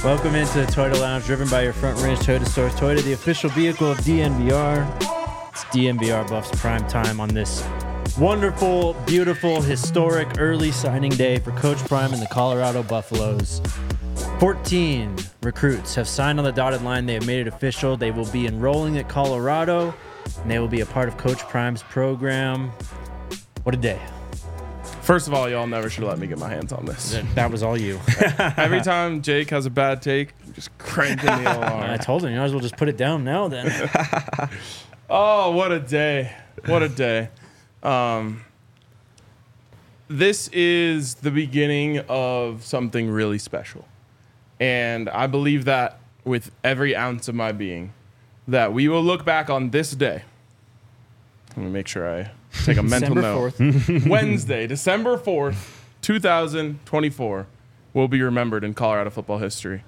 Welcome into the Toyota Lounge, driven by your Front Range Toyota stores. Toyota, the official vehicle of DNVR. It's DNVR Buffs prime time on this wonderful, beautiful, historic early signing day for Coach Prime and the Colorado Buffaloes. 14 recruits have signed on the dotted line. They have made it official. They will be enrolling at Colorado, and they will be a part of Coach Prime's program. What a day. First of all, y'all never should have let me get my hands on this. That was all you. Every time Jake has a bad take, I'm just cranking the alarm. I told him, you might as well just put it down now then. Oh, what a day. What a day. This is the beginning of something really special. And I believe that with every ounce of my being, that we will look back on this day. Let me make sure I take a mental note. 4th. Wednesday, December 4th, 2024 will be remembered in Colorado football history.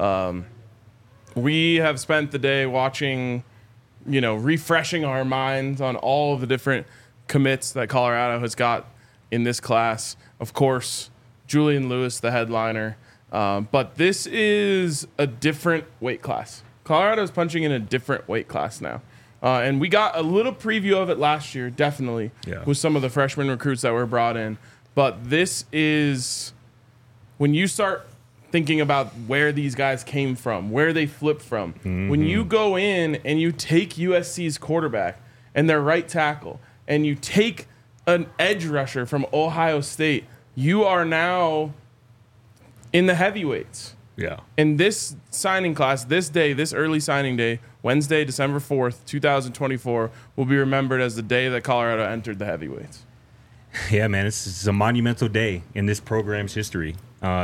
We have spent the day watching, refreshing our minds on all of the different commits that Colorado has got in this class. Of course, Julian Lewis, the headliner. But this is a different weight class. Colorado is punching in a different weight class now. And we got a little preview of it last year, definitely, with some of the freshman recruits that were brought in. But this is when you start thinking about where these guys came from, where they flipped from. Mm-hmm. When you go in and you take USC's quarterback and their right tackle, and you take an edge rusher from Ohio State, you are now in the heavyweights. Yeah. And this signing class, this day, this early signing day, Wednesday, December 4th, 2024, will be remembered as the day that Colorado entered the heavyweights. Yeah, man, it's a monumental day in this program's history.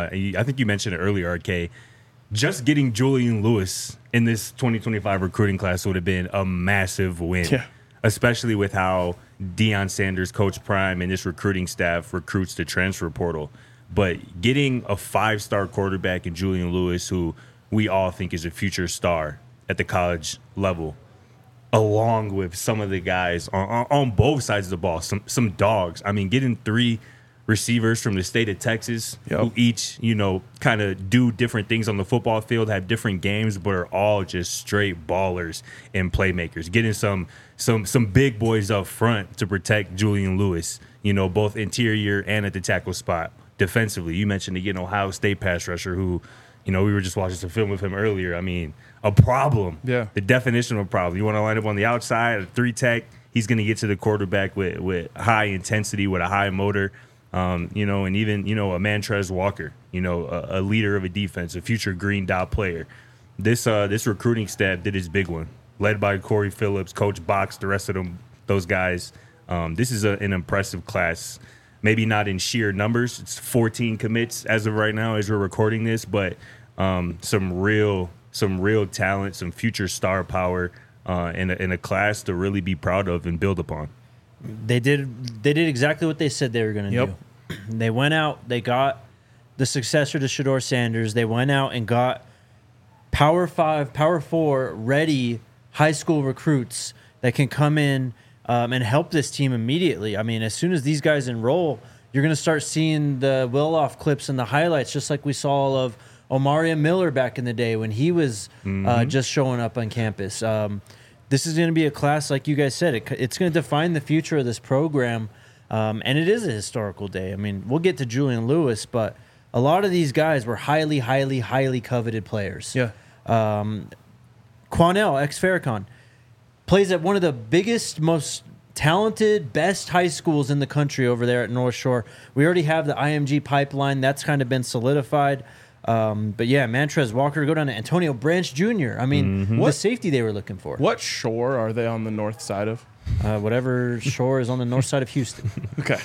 I think you mentioned it earlier, RK. Just getting Julian Lewis in this 2025 recruiting class would have been a massive win, especially with how Deion Sanders, Coach Prime, and this recruiting staff recruits the transfer portal. But getting a 5-star quarterback in Julian Lewis, who we all think is a future star at the college level, along with some of the guys on both sides of the ball, some dogs. I mean, getting 3 receivers from the state of Texas who each, kind of do different things on the football field, have different games, but are all just straight ballers and playmakers. Getting some big boys up front to protect Julian Lewis, both interior and at the tackle spot. Defensively, you mentioned the Ohio State pass rusher who, we were just watching some film with him earlier. I mean, a problem. Yeah. The definition of a problem. You want to line up on the outside, a 3-tech, he's going to get to the quarterback with high intensity, with a high motor, and even, a Mantrez Walker, a leader of a defense, a future green dot player. This recruiting staff did his big one, led by Corey Phillips, Coach Box, the rest of those guys. This is an impressive class. Maybe not in sheer numbers. It's 14 commits as of right now as we're recording this, but some real talent, some future star power in a class to really be proud of and build upon. They did exactly what they said they were going to do. They went out, they got the successor to Shedeur Sanders. They went out and got Power 5, Power 4 ready high school recruits that can come in and help this team immediately. I mean, as soon as these guys enroll, you're going to start seeing the Willoff clips and the highlights, just like we saw of Omaria Miller back in the day when he was just showing up on campus. This is going to be a class, like you guys said, it's going to define the future of this program, and it is a historical day. I mean, we'll get to Julian Lewis, but a lot of these guys were highly, highly, highly coveted players. Yeah. Quanell, ex-Farrakhan, plays at one of the biggest, most talented, best high schools in the country over there at North Shore. We already have the IMG pipeline. That's kind of been solidified. But yeah, Mantrez Walker, go down to Antonio Branch Jr. I mean, the safety they were looking for. What shore are they on the north side of? Whatever shore is on the north side of Houston. Okay.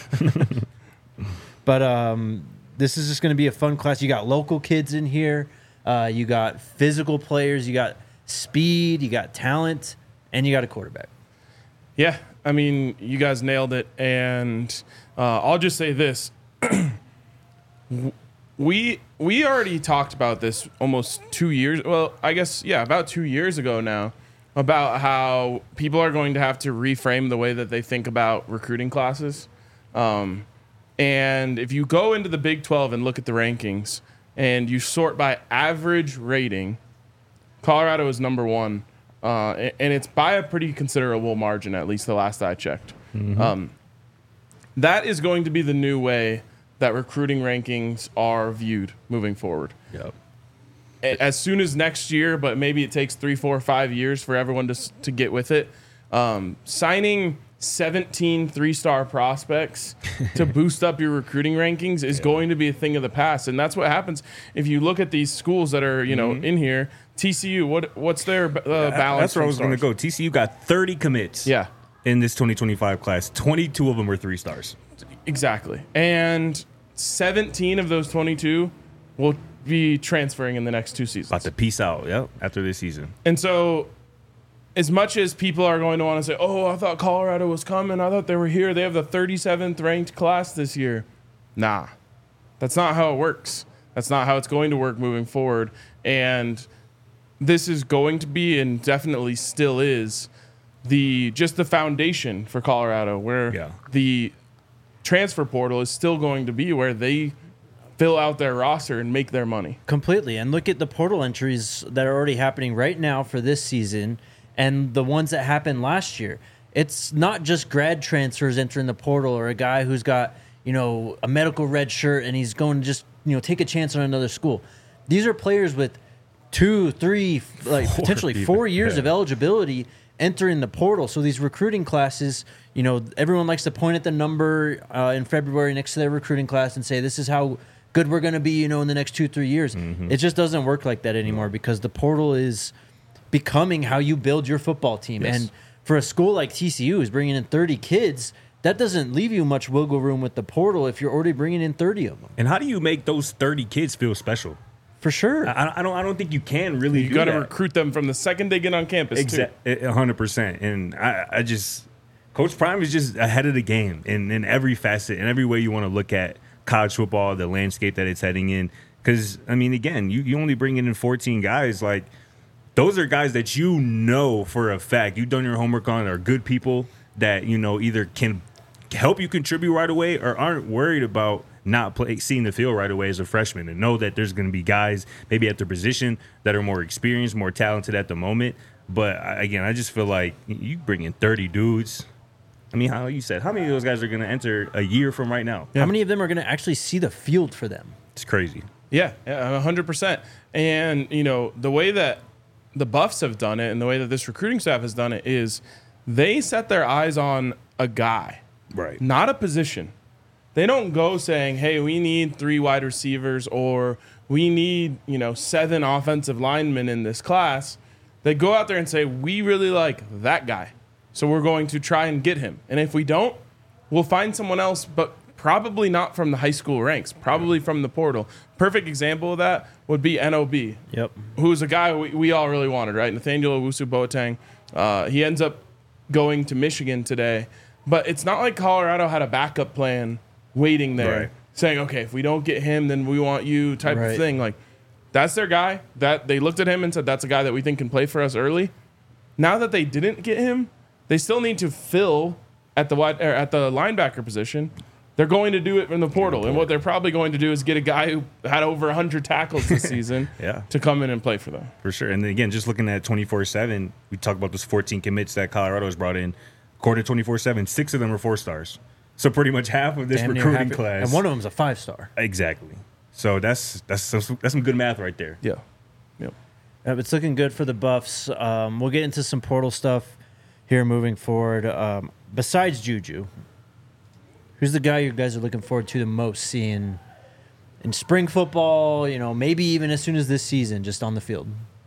But this is just going to be a fun class. You got local kids in here. You got physical players. You got speed. You got talent. And you got a quarterback. Yeah, I mean, you guys nailed it. And I'll just say this. We already talked about this almost 2 years. Well, I guess, about 2 years ago now, about how people are going to have to reframe the way that they think about recruiting classes. And if you go into the Big 12 and look at the rankings, and you sort by average rating, Colorado is number one, and it's by a pretty considerable margin, at least the last I checked. That is going to be the new way that recruiting rankings are viewed moving forward. Yep. As soon as next year, but maybe it takes 3, 4, 5 years for everyone to get with it. Signing 17 3-star prospects to boost up your recruiting rankings is going to be a thing of the past, and that's what happens if you look at these schools that are in here. TCU, what's their balance? That's where I was going to go. TCU got 30 commits. Yeah, in this 2025 class, 22 of them were 3 stars. Exactly, and 17 of those 22 will be transferring in the next 2 seasons. About to peace out, after this season. And so, as much as people are going to want to say, oh, I thought Colorado was coming, I thought they were here, they have the 37th ranked class this year. Nah, that's not how it works. That's not how it's going to work moving forward. And this is going to be, and definitely still is, the foundation for Colorado, where the transfer portal is still going to be where they fill out their roster and make their money. Completely. And look at the portal entries that are already happening right now for this season and the ones that happened last year. It's not just grad transfers entering the portal or a guy who's got, a medical red shirt and he's going to just, take a chance on another school. These are players with 2, 3, potentially 4 years of eligibility entering the portal. So these recruiting classes, everyone likes to point at the number in February next to their recruiting class and say, this is how good we're going to be, in the next 2-3 years. It just doesn't work like that anymore because the portal is becoming how you build your football team. Yes. And for a school like TCU who's bringing in 30 kids, that doesn't leave you much wiggle room with the portal if you're already bringing in 30 of them. And how do you make those 30 kids feel special? For sure. I don't think you can really do that. You got to recruit them from the second they get on campus, too. 100%. And I just – Coach Prime is just ahead of the game in every facet, in every way you want to look at college football, the landscape that it's heading in. Because, again, you only bring in 14 guys. Those are guys that for a fact you've done your homework on, are good people that, either can help you contribute right away or aren't worried about not seeing the field right away as a freshman, and know that there's going to be guys maybe at their position that are more experienced, more talented at the moment. But, again, I just feel like you bring in 30 dudes. How you said, how many of those guys are going to enter a year from right now? How many of them are going to actually see the field for them? It's crazy. Yeah, 100%. And, the way that the Buffs have done it and the way that this recruiting staff has done it is they set their eyes on a guy, right? Not a position. They don't go saying, hey, we need 3 wide receivers or we need, 7 offensive linemen in this class. They go out there and say, we really like that guy, so we're going to try and get him. And if we don't, we'll find someone else, but probably not from the high school ranks, probably from the portal. Perfect example of that would be NOB. Yep. Who's a guy we all really wanted, right? Nathaniel Owusu-Boateng. He ends up going to Michigan today. But it's not like Colorado had a backup plan waiting there, saying, okay, if we don't get him, then we want you type of thing. That's their guy. That they looked at him and said, that's a guy that we think can play for us early. Now that they didn't get him, they still need to fill at the linebacker position. They're going to do it in the portal. And what they're probably going to do is get a guy who had over 100 tackles this season to come in and play for them. For sure. And then again, just looking at 24/7, we talk about those 14 commits that Colorado has brought in. According to 24/7, 6 of them are 4 stars. So pretty much half of this recruiting class. And one of them's a 5-star. Exactly. So that's some good math right there. Yeah. Yep. It's looking good for the Buffs. We'll get into some portal stuff here moving forward. Besides Juju, who's the guy you guys are looking forward to the most seeing in spring football, maybe even as soon as this season, just on the field?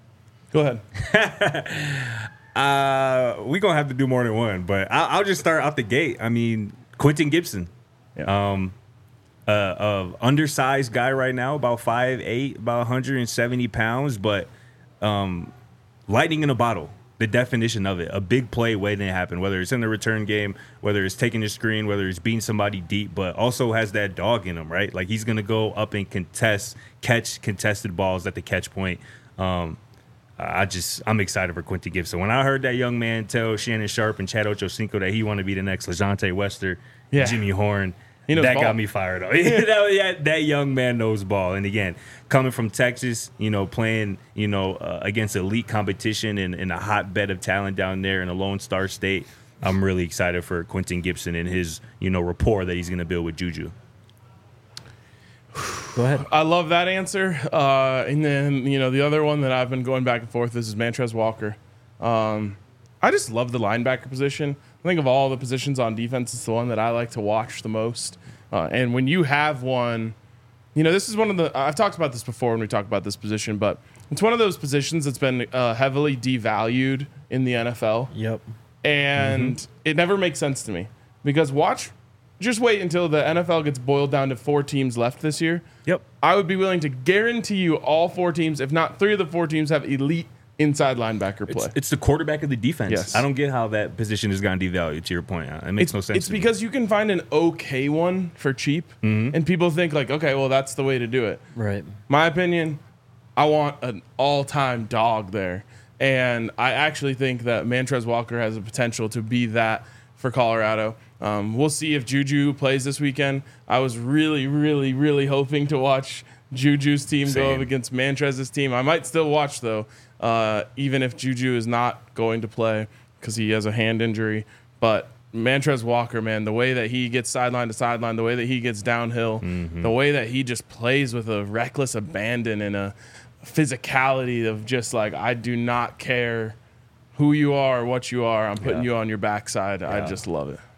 Go ahead. We're going to have to do more than one, but I'll just start out the gate. Quentin Gibson. Yeah. Undersized guy right now, about 5'8", about 170 pounds, but lightning in a bottle. The definition of it, a big play waiting to happen, whether it's in the return game, whether it's taking the screen, whether it's beating somebody deep, but also has that dog in him, right? He's going to go up and catch contested balls at the catch point. I'm excited for Quentin Gibson. When I heard that young man tell Shannon Sharp and Chad Ochocinco that he wanted to be the next LeJontay Wester, Jimmy Horn, He knows that ball. got me fired up. That young man knows ball. And again, coming from Texas, playing, against elite competition in a hotbed of talent down there in a Lone Star State, I'm really excited for Quentin Gibson and his, rapport that he's going to build with Juju. Go ahead. I love that answer. And then, the other one that I've been going back and forth is Mantrez Walker. I just love the linebacker position. I think of all the positions on defense, it's the one that I like to watch the most. And when you have one, this is one of the, I've talked about this before when we talked about this position, but it's one of those positions that's been heavily devalued in the NFL. Yep. And it never makes sense to me because just wait until the NFL gets boiled down to 4 teams left this year. Yep. I would be willing to guarantee you all 4 teams, if not 3 of the 4 teams, have elite inside linebacker play. It's the quarterback of the defense. Yes. I don't get how that position has gotten devalued, to your point. It makes no sense. It's because you can find an okay one for cheap, and people think like, okay, well, that's the way to do it. Right. My opinion, I want an all-time dog there. And I actually think that Mantrez Walker has the potential to be that for Colorado. We'll see if Juju plays this weekend. I was really, really, really hoping to watch Juju's team go up against Mantrez's team. I might still watch, though, even if Juju is not going to play because he has a hand injury. But Mantrez Walker, man, the way that he gets sideline to sideline, the way that he gets downhill, the way that he just plays with a reckless abandon and a physicality of just like, I do not care who you are or what you are. I'm putting you on your backside. I just love it.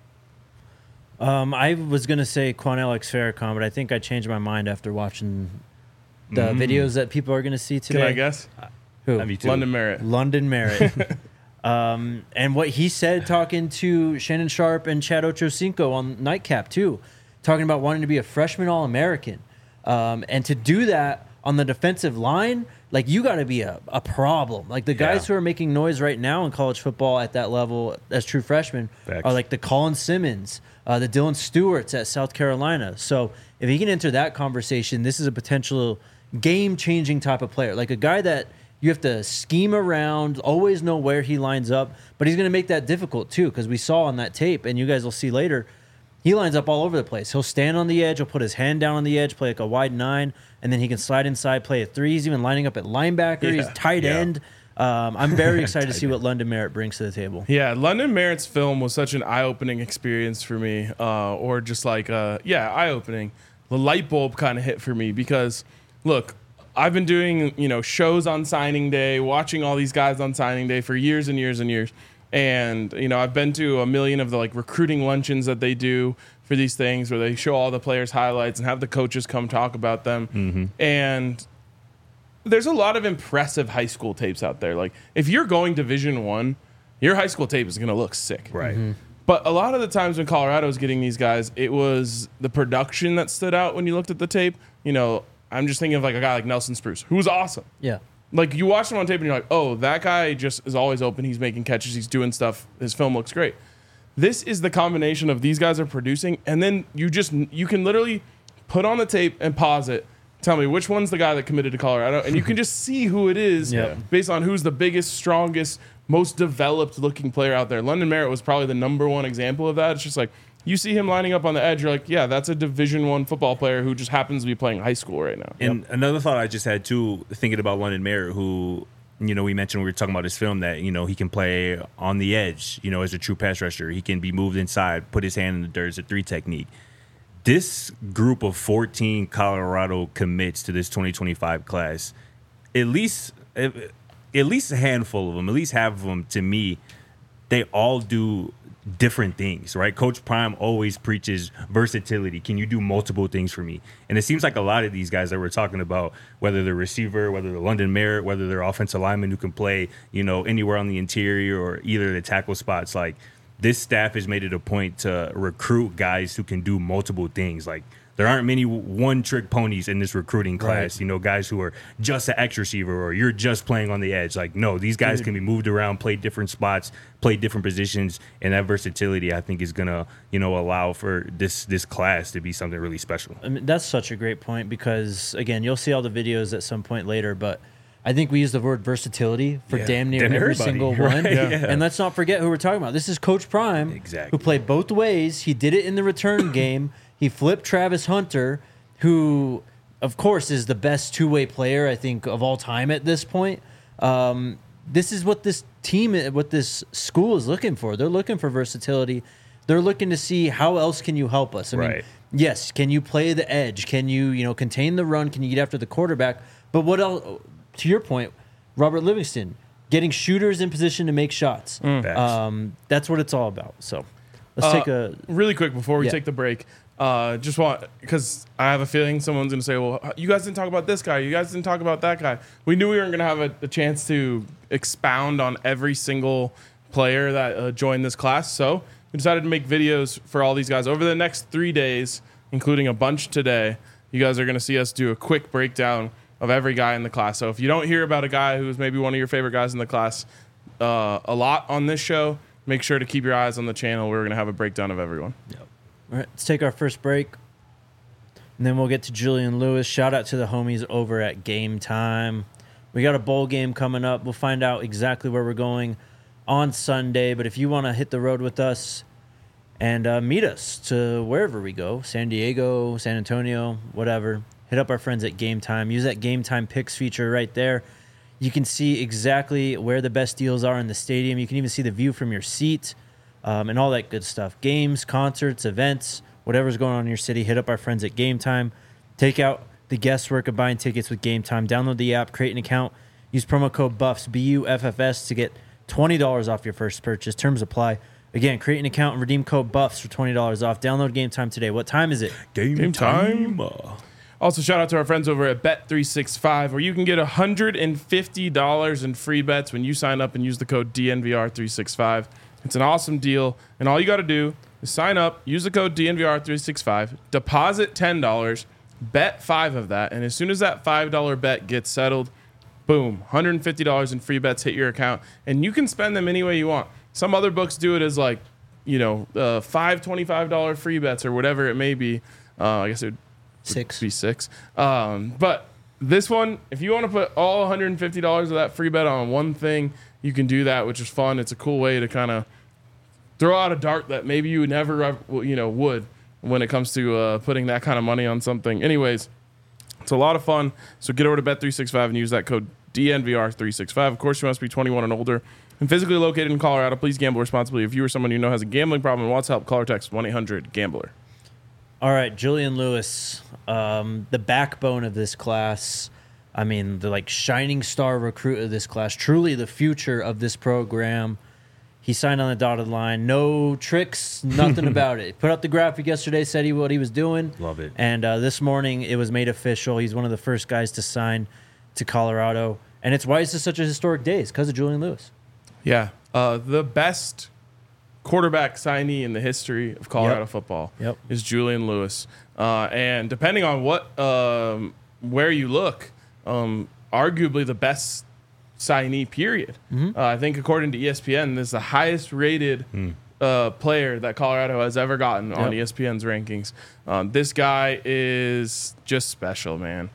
I was going to say Quan Alex Farrakhan, but I think I changed my mind after watching the videos that people are going to see today. Can I guess? Who? London Merritt. London Merritt. And what he said talking to Shannon Sharp and Chad Ochocinco on Nightcap, too, talking about wanting to be a freshman All-American. And to do that on the defensive line, like, you got to be a problem. Like, the guys who are making noise right now in college football at that level as true freshmen are like the Colin Simmons, the Dylan Stewarts at South Carolina. So if he can enter that conversation, this is a potential game-changing type of player. Like a guy that you have to scheme around, always know where he lines up, but he's going to make that difficult too, because we saw on that tape, and you guys will see later, he lines up all over the place. He'll stand on the edge, he'll put his hand down on the edge, play like a wide 9, and then he can slide inside, play a 3. He's even lining up at linebacker. He's tight end. I'm very excited to see what London Merritt brings to the table. Yeah, London Merritt's film was such an eye-opening experience for me, or just like, eye-opening. The light bulb kind of hit for me because, look, I've been doing, shows on signing day, watching all these guys on signing day for years and years and years. And, I've been to a million of the recruiting luncheons that they do for these things where they show all the players' highlights and have the coaches come talk about them. And there's a lot of impressive high school tapes out there. Like, if you're going Division I, your high school tape is going to look sick. Right. But a lot of the times when Colorado was getting these guys, it was the production that stood out when you looked at the tape. I'm just thinking of a guy like Nelson Spruce, who was awesome. Yeah. Like, you watch him on tape and you're like, oh, that guy just is always open. He's making catches. He's doing stuff. His film looks great. This is the combination of these guys are producing, and then you can literally put on the tape and pause it. Tell me which one's the guy that committed to Colorado, and you can just see who it is based on who's the biggest, strongest, most developed-looking player out there. London Merritt was probably the number one example of that. It's just like, you see him lining up on the edge, you're like, yeah, that's a Division I football player who just happens to be playing high school right now. And another thought I just had, too, thinking about London Merritt, who, we mentioned when we were talking about his film that, he can play on the edge, as a true pass rusher. He can be moved inside, put his hand in the dirt. It's a 3 technique. This group of 14 Colorado commits to this 2025 class, at least a handful of them, at least half of them, to me, they all do different things, right? Coach Prime always preaches versatility. Can you do multiple things for me? And it seems like a lot of these guys that we're talking about, whether they're receiver, whether they're London Merritt, whether they're offensive linemen who can play, anywhere on the interior or either the tackle spots, like, this staff has made it a point to recruit guys who can do multiple things. Like, there aren't many one-trick ponies in this recruiting class, guys who are just an X receiver or you're just playing on the edge. Like, no, these guys can be moved around, play different spots, play different positions, and that versatility, I think, is going to, allow for this class to be something really special. I mean, that's such a great point because, again, you'll see all the videos at some point later, but I think we use the word versatility for damn near every single one. Right? Yeah. And let's not forget who we're talking about. This is Coach Prime, Exactly. who played both ways. He did it in the return game. He flipped Travis Hunter, who, of course, is the best two-way player, I think, of all time at this point. This is what this team, what this school is looking for. They're looking for versatility. They're looking to see how else can you help us. I mean, yes, can you play the edge? Can you, contain the run? Can you get after the quarterback? But what else? To your point, Robert Livingston, getting shooters in position to make shots. That's what it's all about. So let's take a really quick before we take the break. Just want, because I have a feeling someone's going to say, well, you guys didn't talk about this guy. You guys didn't talk about that guy. We knew we weren't going to have a chance to expound on every single player that joined this class. So we decided to make videos for all these guys over the next 3 days, including a bunch today. You guys are going to see us do a quick breakdown of every guy in the class. So if you don't hear about a guy who's maybe one of your favorite guys in the class a lot on this show, make sure to keep your eyes on the channel. We're going to have a breakdown of everyone. Yep. All right, let's take our first break, and then we'll get to Julian Lewis. Shout out to the homies over at Game Time. We got a bowl game coming up. We'll find out exactly where we're going on Sunday. But if you want to hit the road with us and meet us to wherever we go, San Diego, San Antonio, whatever, hit up our friends at Game Time. Use that Game Time Picks feature right there. You can see exactly where the best deals are in the stadium. You can even see the view from your seat. And all that good stuff. Games, concerts, events, whatever's going on in your city, hit up our friends at Game Time. Take out the guesswork of buying tickets with Game Time. Download the app, create an account, use promo code BUFFS, BUFFS, to get $20 off your first purchase. Terms apply. Again, create an account and redeem code BUFFS for $20 off. Download Game Time today. What time is it? Game time. Also, shout out to our friends over at Bet365, where you can get $150 in free bets when you sign up and use the code DNVR365. It's an awesome deal, and all you got to do is sign up, use the code DNVR365, deposit $10, bet 5 of that, and as soon as that $5 bet gets settled, boom, $150 in free bets hit your account, and you can spend them any way you want. Some other books do it as like, 5 $25 free bets or whatever it may be. I guess it would be 6. But this one, if you want to put all $150 of that free bet on one thing, you can do that, which is fun. It's a cool way to kind of throw out a dart that maybe you never, would when it comes to putting that kind of money on something. Anyways, it's a lot of fun. So get over to Bet365 and use that code DNVR365. Of course, you must be 21 and older and physically located in Colorado. Please gamble responsibly. If you or someone you know has a gambling problem and wants help, call or text 1-800-GAMBLER. All right, Julian Lewis, the backbone of this class. I mean, the shining star recruit of this class, truly the future of this program. He signed on the dotted line. No tricks, nothing about it. Put up the graphic yesterday, said what he was doing. Love it. And this morning it was made official. He's one of the first guys to sign to Colorado. And it's why this is such a historic day. It's because of Julian Lewis. Yeah. The best quarterback signee in the history of Colorado football is Julian Lewis. And depending on where you look, arguably the best signee, period. I think according to ESPN, this is the highest rated player that Colorado has ever gotten on ESPN's rankings. This guy is just special, man.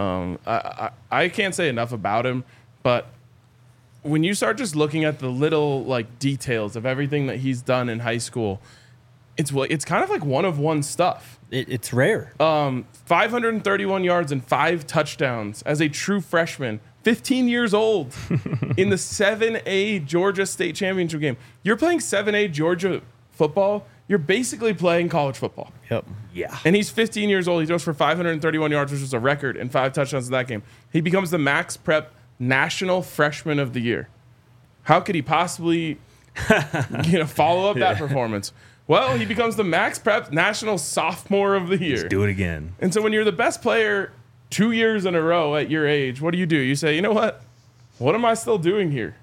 I can't say enough about him, but when you start just looking at the little details of everything that he's done in high school, it's kind of like one-of-one stuff. It's rare. 531 yards and 5 touchdowns as a true freshman, 15 years old, in the 7A Georgia State Championship game. You're playing 7A Georgia football. You're basically playing college football. Yep. Yeah. And he's 15 years old. He throws for 531 yards, which was a record, and 5 touchdowns in that game. He becomes the Max Prep National Freshman of the Year. How could he possibly follow up that performance? Well, he becomes the Max Prep National Sophomore of the Year. Let's do it again. And so when you're the best player 2 years in a row at your age, what do? You say, you know what? What am I still doing here?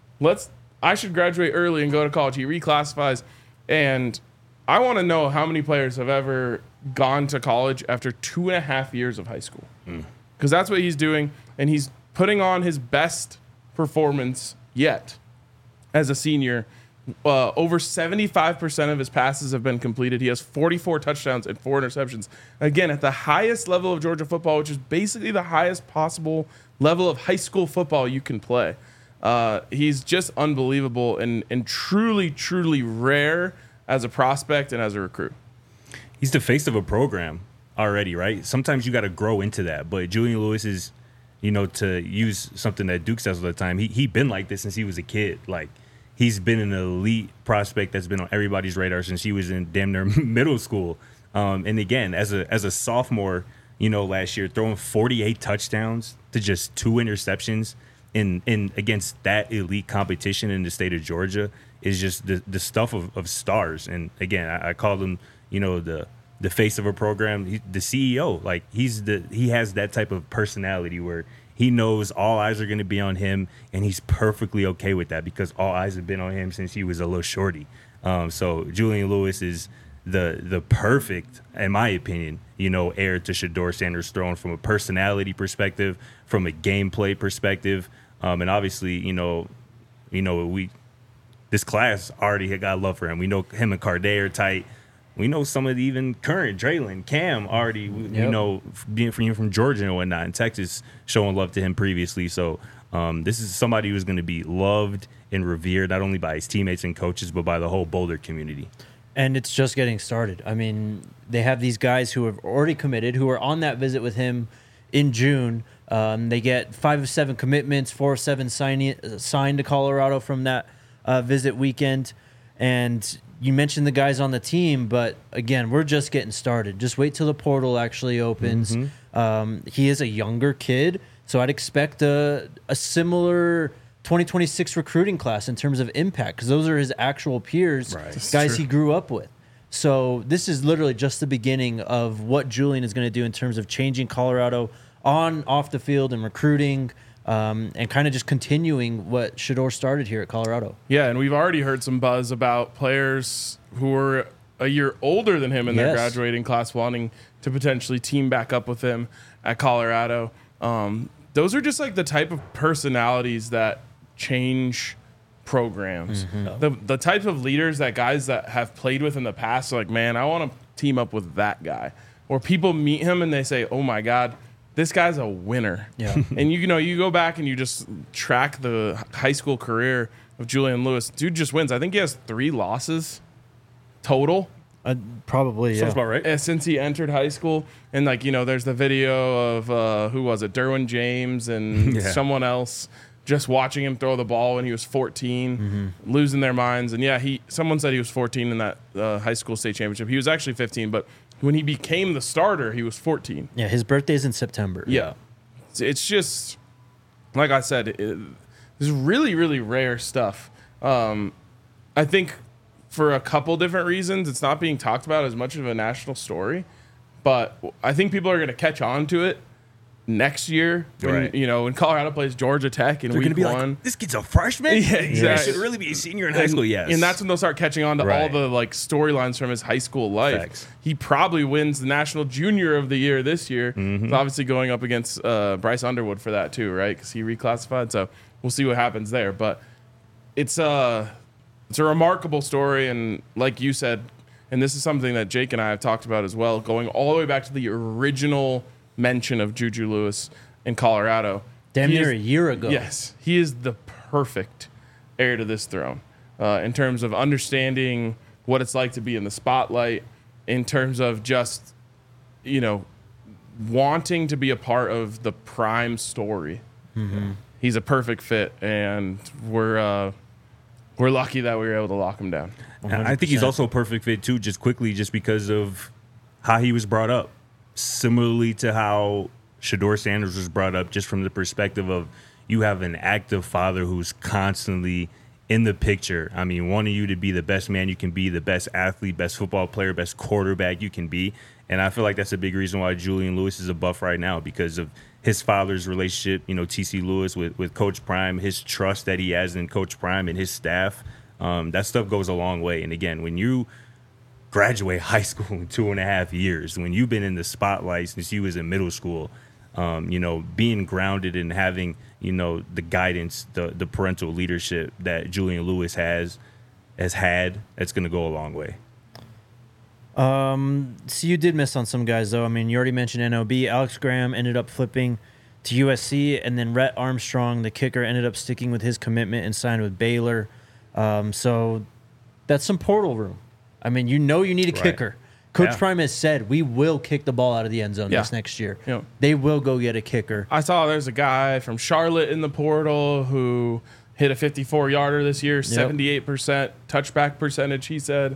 I should graduate early and go to college. He reclassifies. And I want to know how many players have ever gone to college after 2.5 years of high school. Because that's what he's doing. And he's putting on his best performance yet as a senior. Over 75% of his passes have been completed. He has 44 touchdowns and 4 interceptions. Again, at the highest level of Georgia football, which is basically the highest possible level of high school football you can play. He's just unbelievable and truly, truly rare as a prospect and as a recruit. he's the face of a program already, right? Sometimes you got to grow into that. But Julian Lewis is, to use something that Duke says all the time, he been like this since he was a kid. Like, he's been an elite prospect that's been on everybody's radar since he was in damn near middle school. And again, as a sophomore, last year, throwing 48 touchdowns to just 2 interceptions in against that elite competition in the state of Georgia is just the stuff of stars. And again, I call him, the face of a program, the CEO. Like, he has that type of personality where he knows all eyes are going to be on him, and he's perfectly okay with that because all eyes have been on him since he was a little shorty. So Julian Lewis is the perfect, in my opinion, heir to Shedeur Sanders' throne from a personality perspective, from a gameplay perspective, and obviously, this class already had got love for him. We know him and Carday are tight. We know some of the even current Draylon, Cam already, being from Georgia and whatnot, and Texas showing love to him previously. So this is somebody who's going to be loved and revered, not only by his teammates and coaches, but by the whole Boulder community. And it's just getting started. I mean, they have these guys who have already committed, who are on that visit with him in June. They get 5 of 7 commitments, 4 of 7 signed to Colorado from that visit weekend. And you mentioned the guys on the team, but again, we're just getting started. Just wait till the portal actually opens. Mm-hmm. He is a younger kid, so I'd expect a similar 2026 recruiting class in terms of impact, because those are his actual peers, right, guys he grew up with. So this is literally just the beginning of what Julian is going to do in terms of changing Colorado on, off the field, and recruiting, and kind of just continuing what Shedeur started here at Colorado. Yeah, and we've already heard some buzz about players who are a year older than him in their graduating class wanting to potentially team back up with him at Colorado. Those are just like the type of personalities that change programs. Mm-hmm. The type of leaders that guys that have played with in the past are like, man, I want to team up with that guy. Or people meet him and they say, oh my God, this guy's a winner. Yeah. And you go back and you just track the high school career of Julian Lewis. Dude just wins. I think he has 3 losses total. Probably, yeah. Sounds about right. Since he entered high school. And there's the video of who was it? Derwin James and someone else just watching him throw the ball when he was 14, losing their minds. And someone said he was 14 in that high school state championship. He was actually 15, but when he became the starter, he was 14. Yeah, his birthday's in September. Yeah. It's just, like I said, this is really, really rare stuff. I think for a couple different reasons, it's not being talked about as much of a national story, but I think people are going to catch on to it next year when when Colorado plays Georgia Tech in week 1. Like, this kid's a freshman? Yeah, exactly. He should really be a senior in high school, yes. And that's when they'll start catching on to all the storylines from his high school life. Facts. He probably wins the National Junior of the Year this year. Mm-hmm. He's obviously going up against Bryce Underwood for that too, right? Because he reclassified. So we'll see what happens there. But it's a remarkable story, and like you said, and this is something that Jake and I have talked about as well, going all the way back to the original mention of Juju Lewis in Colorado. Damn near a year ago. Yes. He is the perfect heir to this throne in terms of understanding what it's like to be in the spotlight, in terms of just, wanting to be a part of the prime story. Mm-hmm. He's a perfect fit, and we're lucky that we were able to lock him down. 100%. I think he's also a perfect fit, too, just because of how he was brought up. Similarly to how Shedeur Sanders was brought up, just from the perspective of you have an active father who's constantly in the picture. I mean, wanting you to be the best man you can be, the best athlete, best football player, best quarterback you can be. And I feel like that's a big reason why Julian Lewis is a Buff right now, because of his father's relationship, T.C. Lewis with Coach Prime, his trust that he has in Coach Prime and his staff. That stuff goes a long way. And again, when you graduate high school in 2.5 years, when you've been in the spotlight since you was in middle school, being grounded and having, the guidance, the parental leadership that Julian Lewis has had, it's going to go a long way. So you did miss on some guys, though. I mean, you already mentioned NOB. Alex Graham ended up flipping to USC, and then Rhett Armstrong, the kicker, ended up sticking with his commitment and signed with Baylor. So that's some portal room. I mean, you need a kicker. Coach Prime has said we will kick the ball out of the end zone this next year. Yeah. They will go get a kicker. I saw there's a guy from Charlotte in the portal who hit a 54-yarder this year, 78% touchback percentage, he said.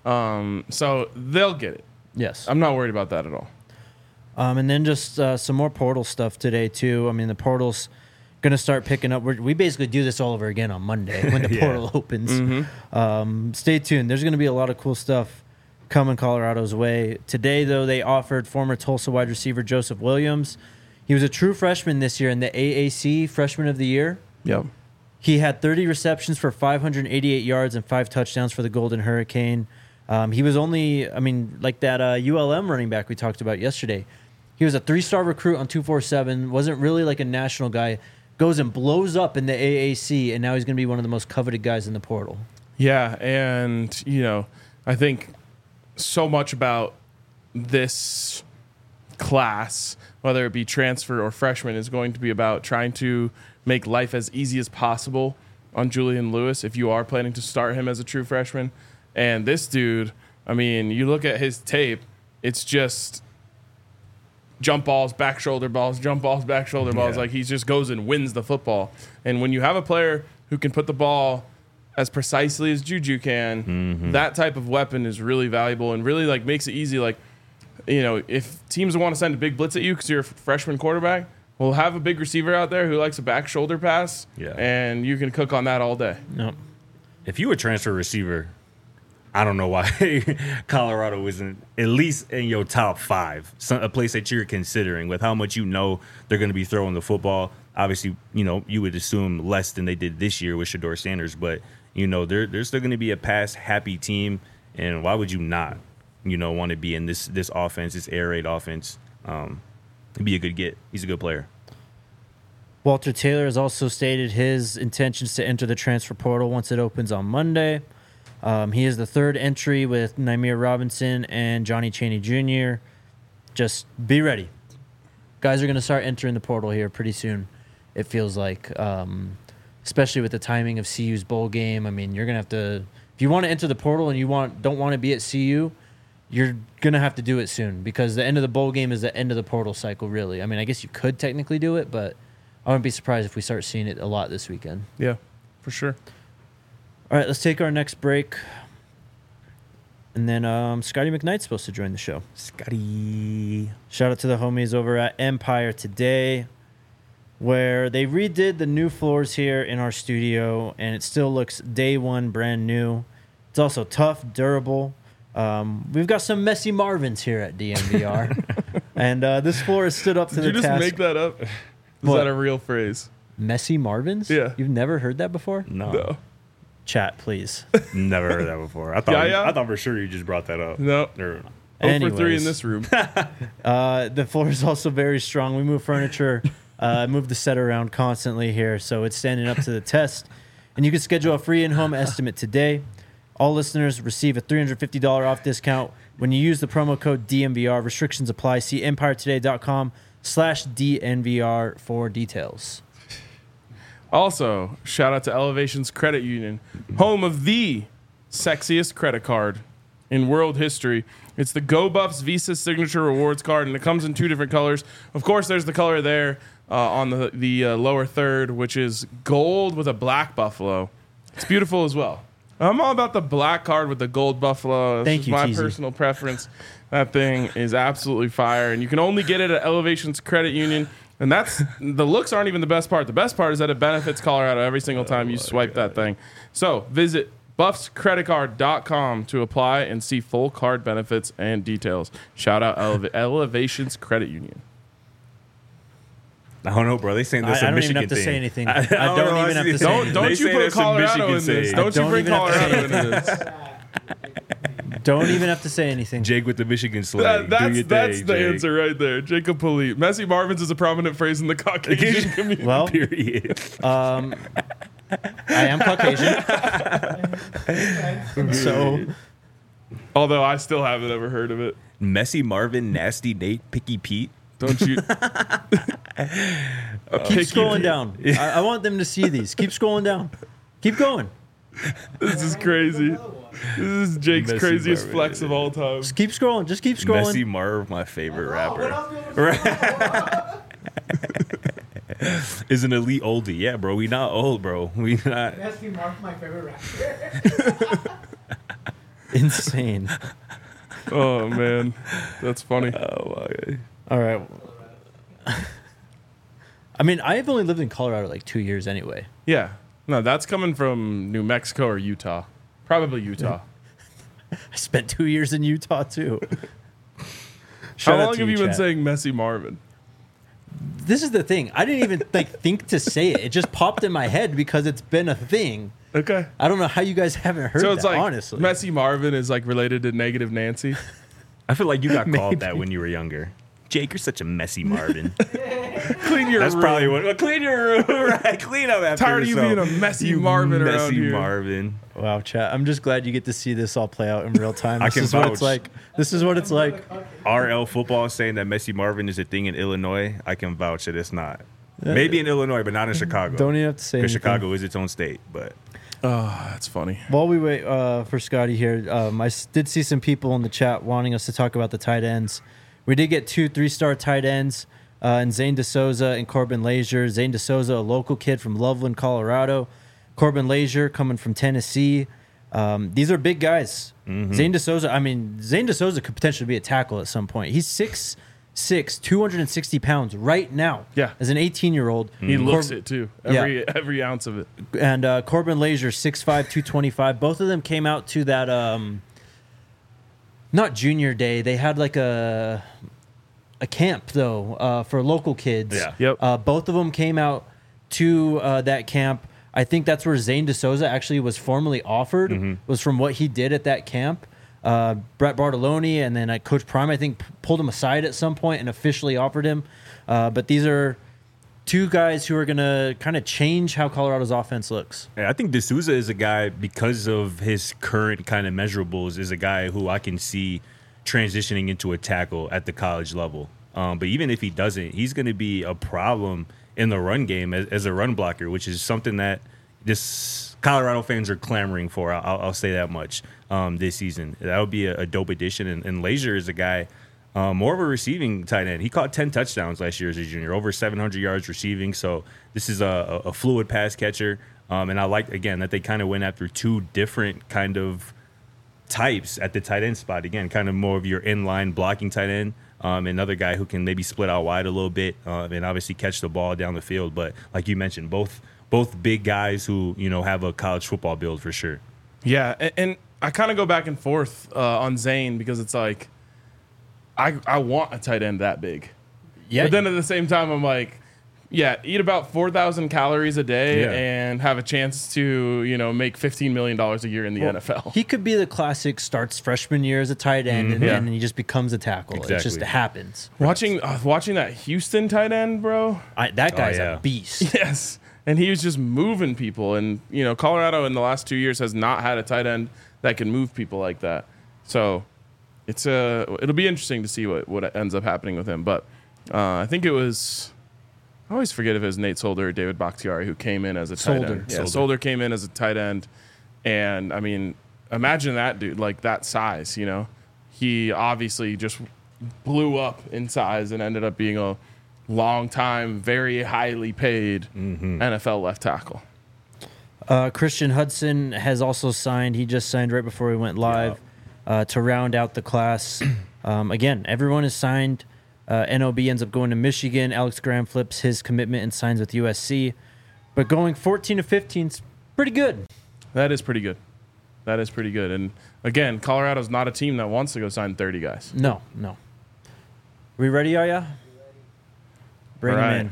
So they'll get it. Yes. I'm not worried about that at all. And then just some more portal stuff today, too. I mean, the portal's going to start picking up. We basically do this all over again on Monday when the portal opens. Stay tuned. There's going to be a lot of cool stuff coming Colorado's way. Today, though, they offered former Tulsa wide receiver Joseph Williams. He was a true freshman this year in the AAC Freshman of the Year. Yep. He had 30 receptions for 588 yards and 5 touchdowns for the Golden Hurricane. He was only, like that ULM running back we talked about yesterday. He was a 3-star recruit on 247, wasn't really like a national guy, goes and blows up in the AAC, and now he's going to be one of the most coveted guys in the portal. Yeah, and, I think so much about this class, whether it be transfer or freshman, is going to be about trying to make life as easy as possible on Julian Lewis if you are planning to start him as a true freshman. And this dude, you look at his tape, it's just jump balls, back shoulder balls, jump balls, back shoulder balls. Like, he just goes and wins the football. And when you have a player who can put the ball as precisely as Juju can, that type of weapon is really valuable and really makes it easy. If teams want to send a big blitz at you because you're a freshman quarterback, we'll have a big receiver out there who likes a back shoulder pass, and you can cook on that all day. Yep. If you a transfer receiver, I don't know why Colorado isn't at least in your top 5, a place that you're considering with how much they're going to be throwing the football. Obviously, you would assume less than they did this year with Shedeur Sanders, but they're still going to be a pass-happy team, and why would you not, want to be in this offense, this air raid offense? He'd be a good get. He's a good player. Walter Taylor has also stated his intentions to enter the transfer portal once it opens on Monday. He is the 3rd entry with Nymir Robinson and Johnny Chaney Jr. Just be ready. Guys are going to start entering the portal here pretty soon, it feels like, especially with the timing of CU's bowl game. You're going to have to – if you want to enter the portal and you don't want to be at CU, you're going to have to do it soon because the end of the bowl game is the end of the portal cycle, really. I guess you could technically do it, but I wouldn't be surprised if we start seeing it a lot this weekend. Yeah, for sure. All right, let's take our next break. And then Scotty McKnight's supposed to join the show. Scotty. Shout out to the homies over at Empire Today, where they redid the new floors here in our studio, and it still looks day one brand new. It's also tough, durable. We've got some messy Marvins here at DNVR. And this floor has stood up to the task. Did you just make that up? Is that a real phrase? Messy Marvins? Yeah. You've never heard that before? No. Chat, please. Never heard that before. I thought for sure you just brought that up. No. 0 for 3 in this room. The floor is also very strong. We move furniture, move the set around constantly here, so it's standing up to the test. And you can schedule a free in-home estimate today. All listeners receive a $350 off discount when you use the promo code DNVR. Restrictions apply. See EmpireToday.com/DNVR for details. Also, shout out to Elevations Credit Union, home of the sexiest credit card in world history. It's the Go Buffs Visa Signature Rewards card, and it comes in 2 different colors. Of course, there's the color there on the lower third, which is gold with a black buffalo. It's beautiful as well. I'm all about the black card with the gold buffalo. Thank you, my Teasy. personal preference. That thing is absolutely fire, and you can only get it at Elevations Credit Union. And that's the looks aren't even the best part. The best part is that it benefits Colorado every single time you swipe that thing. So visit buffscreditcard.com to apply and see full card benefits and details. Shout out Elevations Credit Union. I don't know, bro. They saying this I a don't even Michigan have to thing. say anything. I don't even have to say anything. Don't you put Colorado in this. Don't you bring Colorado into this. Don't even have to say anything. Jake with the Michigan slang. That's the answer right there. Jacob Polite. Messy Marvins is a prominent phrase in the Caucasian community. Well, Period. I am Caucasian. So, Although I still haven't ever heard of it. Messy Marvin, Nasty Nate, Picky Pete. Don't you? keep scrolling down. I want them to see these. Keep scrolling down. Keep going. This is crazy. This is Jake's Messi craziest Marvin. flex of all time. Just keep scrolling. Just keep scrolling. Messi Marv, my favorite rapper. Is an elite oldie. Yeah, bro. We not old, bro. We not. Messi Mark, my favorite rapper. Insane. Oh man, that's funny. Oh my God. All right. I mean, I've only lived in Colorado like 2 years anyway. Yeah, no, that's coming from New Mexico or Utah. Probably Utah. I spent 2 years in Utah too. How Shout out long to have you chat. been saying Messi Marvin? This is the thing. I didn't even think to say it. It just popped in my head because it's been a thing. Okay. I don't know how you guys haven't heard So it's that, like honestly. Messi Marvin is like related to Negative Nancy. I feel like you got Maybe. called that when you were younger. Jake, you're such a messy Marvin. Clean your That's room. probably what. Well, clean your room, right? Clean up after Tired of you yourself. being a messy You Marvin around messy here. Marvin. Wow, chat. I'm just glad you get to see this all play out in real time. I This can is what it's vouch. like. This is what it's like. RL football is saying that Messi Marvin is a thing in Illinois. I can vouch that it's not. Maybe in Illinois, but not in Chicago. Don't even have to say Because anything. Chicago is its own state. But Oh, that's funny. While we wait for Scotty here, did see some people in the chat wanting us to talk about the tight ends. We did get 2 3-star tight ends, and Zane DeSouza and Corbin Lazier. Zane DeSouza, a local kid from Loveland, Colorado. Corbin Lazier coming from Tennessee. These are big guys. Zane DeSouza could potentially be a tackle at some point. He's 6'6", 260 pounds right now. Yeah. As an 18-year-old. He looks it too. Every ounce of it. And Corbin Lazier, 6'5", 225. Both of them came out to that, not junior day. They had like a camp, though, for local kids. Yeah. Yep. Both of them came out to that camp. I think that's where Zane DeSouza actually was formally offered, was from what he did at that camp. Brett Bartoloni and then Coach Prime, I think, pulled him aside at some point and officially offered him. But these are 2 guys who are going to kind of change how Colorado's offense looks. yeah, I think D'Souza is a guy, because of his current kind of measurables, is a guy who I can see transitioning into a tackle at the college level. But even if he doesn't, he's going to be a problem in the run game as a run blocker, which is something that this Colorado fans are clamoring for. I'll say that much this season. That would be a dope addition. And Lazier is a guy, more of a receiving tight end. He caught 10 touchdowns last year as a junior, over 700 yards receiving. So this is a fluid pass catcher. And I like, again, that they kind of went after 2 different kind of types at the tight end spot. Again, kind of more of your inline blocking tight end. Another guy who can maybe split out wide a little bit and obviously catch the ball down the field. But like you mentioned, both big guys who, have a college football build for sure. Yeah, and I kind of go back and forth on Zane because it's like I want a tight end that big. Yeah. But then at the same time, I'm like, yeah, eat about 4,000 calories a day Yeah. and have a chance to, make $15 million a year in the NFL. He could be the classic starts freshman year as a tight end, and then he just becomes a tackle. It just Exactly. happens. Watching that Houston tight end, bro. That guy's yeah. a beast. Yes. And he was just moving people. And, Colorado in the last 2 years has not had a tight end that can move people like that. So it'll be interesting to see what ends up happening with him. But I think it was, I always forget if it was Nate Solder or David Bakhtiari who came in as a tight Solder. end. Yeah, Solder came in as a tight end. And, I mean, imagine that dude, like that size, He obviously just blew up in size and ended up being a long time, very highly paid NFL left tackle. Christian Hudson has also signed. He just signed right before we went live to round out the class. Again, everyone is signed. NOB ends up going to Michigan. Alex Graham flips his commitment and signs with USC. But going 14 to 15 is pretty good. That is pretty good. And again, Colorado's not a team that wants to go sign 30 guys. No. We ready, Yaya? Bring All him right. in.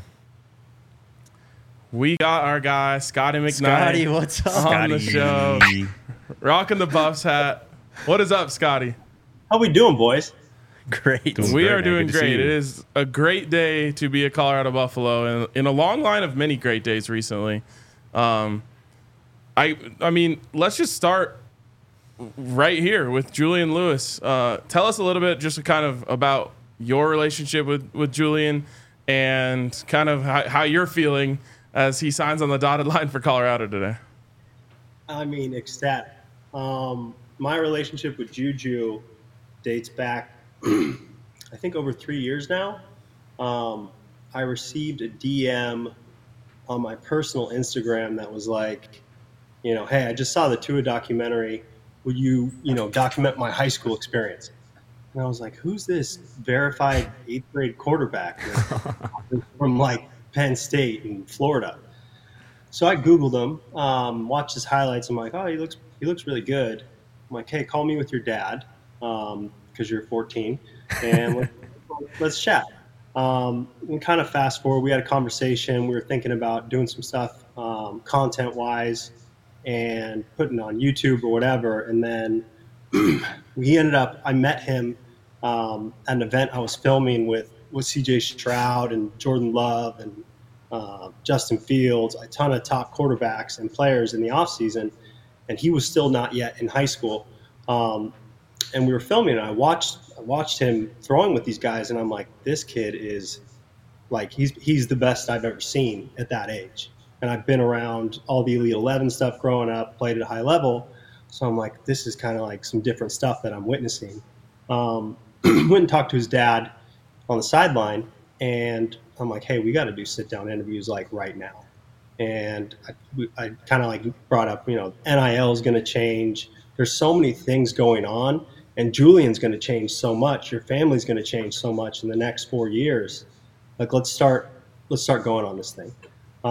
We got our guy, Scotty McKnight, Scotty, what's up? on the show, rocking the Buffs hat. What is up, Scotty? How we doing, boys? Great. Doing We great, are man. doing Good to see great. you. It is a great day to be a Colorado Buffalo, and in a long line of many great days recently. I mean, let's just start right here with Julian Lewis. Tell us a little bit just kind of about your relationship with Julian and kind of how you're feeling as he signs on the dotted line for Colorado today. I mean, ecstatic. My relationship with Juju dates back, I think, over 3 years now. I received a DM on my personal Instagram that was like, hey, I just saw the Tua documentary. Would you, document my high school experience? And I was like, who's this verified eighth grade quarterback from like Penn State and Florida? So I Googled him, watched his highlights. I'm like, oh, he looks really good. I'm like, hey, call me with your dad because you're 14, and let's chat. And kind of fast forward, we had a conversation. We were thinking about doing some stuff content wise and putting on YouTube or whatever. And then I met him at an event I was filming with CJ Stroud and Jordan Love and Justin Fields, a ton of top quarterbacks and players in the offseason. And he was still not yet in high school. And we were filming, and I watched him throwing with these guys, and I'm like, this kid is like, he's the best I've ever seen at that age. And I've been around all the Elite 11 stuff growing up, played at a high level. So I'm like, this is kind of like some different stuff that I'm witnessing. Went and talked to his dad on the sideline, and I'm like, hey, we got to do sit-down interviews like right now. And I kind of like brought up, NIL is going to change. There's so many things going on, and Julian's going to change so much. Your family's going to change so much in the next 4 years. Like, let's start going on this thing.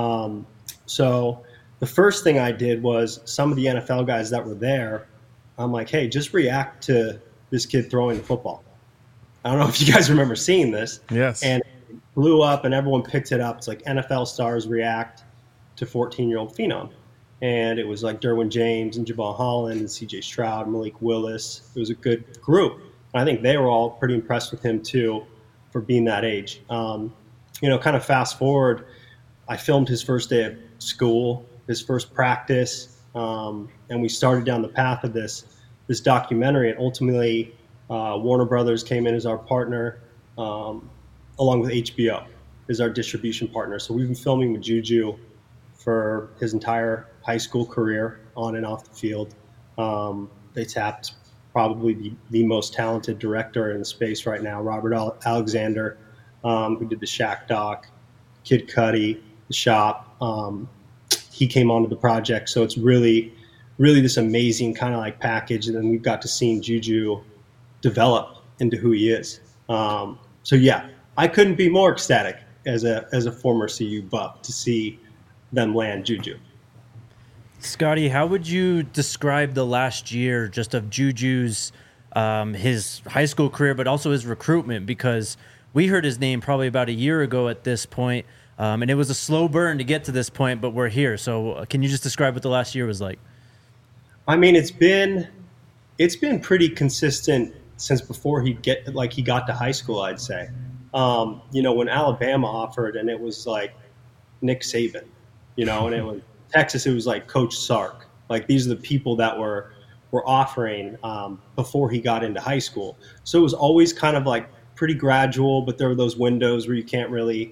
So the first thing I did was some of the NFL guys that were there, I'm like, hey, just react to this kid throwing the football. I don't know if you guys remember seeing this. Yes. And it blew up, and everyone picked it up. It's like NFL stars react to 14-year-old phenom. And it was like Derwin James and Jabal Holland and CJ Stroud, Malik Willis. It was a good group. And I think they were all pretty impressed with him too for being that age. Kind of fast forward, I filmed his first day of school, his first practice, and we started down the path of this documentary. And ultimately, Warner Brothers came in as our partner, along with HBO as our distribution partner. So we've been filming with Juju for his entire high school career, on and off the field. They tapped probably the most talented director in the space right now, Robert Alexander, who did the Shaq doc, Kid Cudi, The Shop. He came onto the project, so it's really, really this amazing kind of like package. And then we've got to see Juju develop into who he is. So yeah, I couldn't be more ecstatic as a former CU Buff to see them land Juju. Scotty, how would you describe the last year just of Juju's his high school career, but also his recruitment? Because we heard his name probably about a year ago at this point, and it was a slow burn to get to this point, but we're here. So can you just describe what the last year was like? I mean, it's been pretty consistent since before he got to high school, I'd say. When Alabama offered, and it was like Nick Saban, and it was Texas, it was like Coach Sark. Like, these are the people that were offering before he got into high school. So it was always kind of like pretty gradual, but there were those windows where you can't really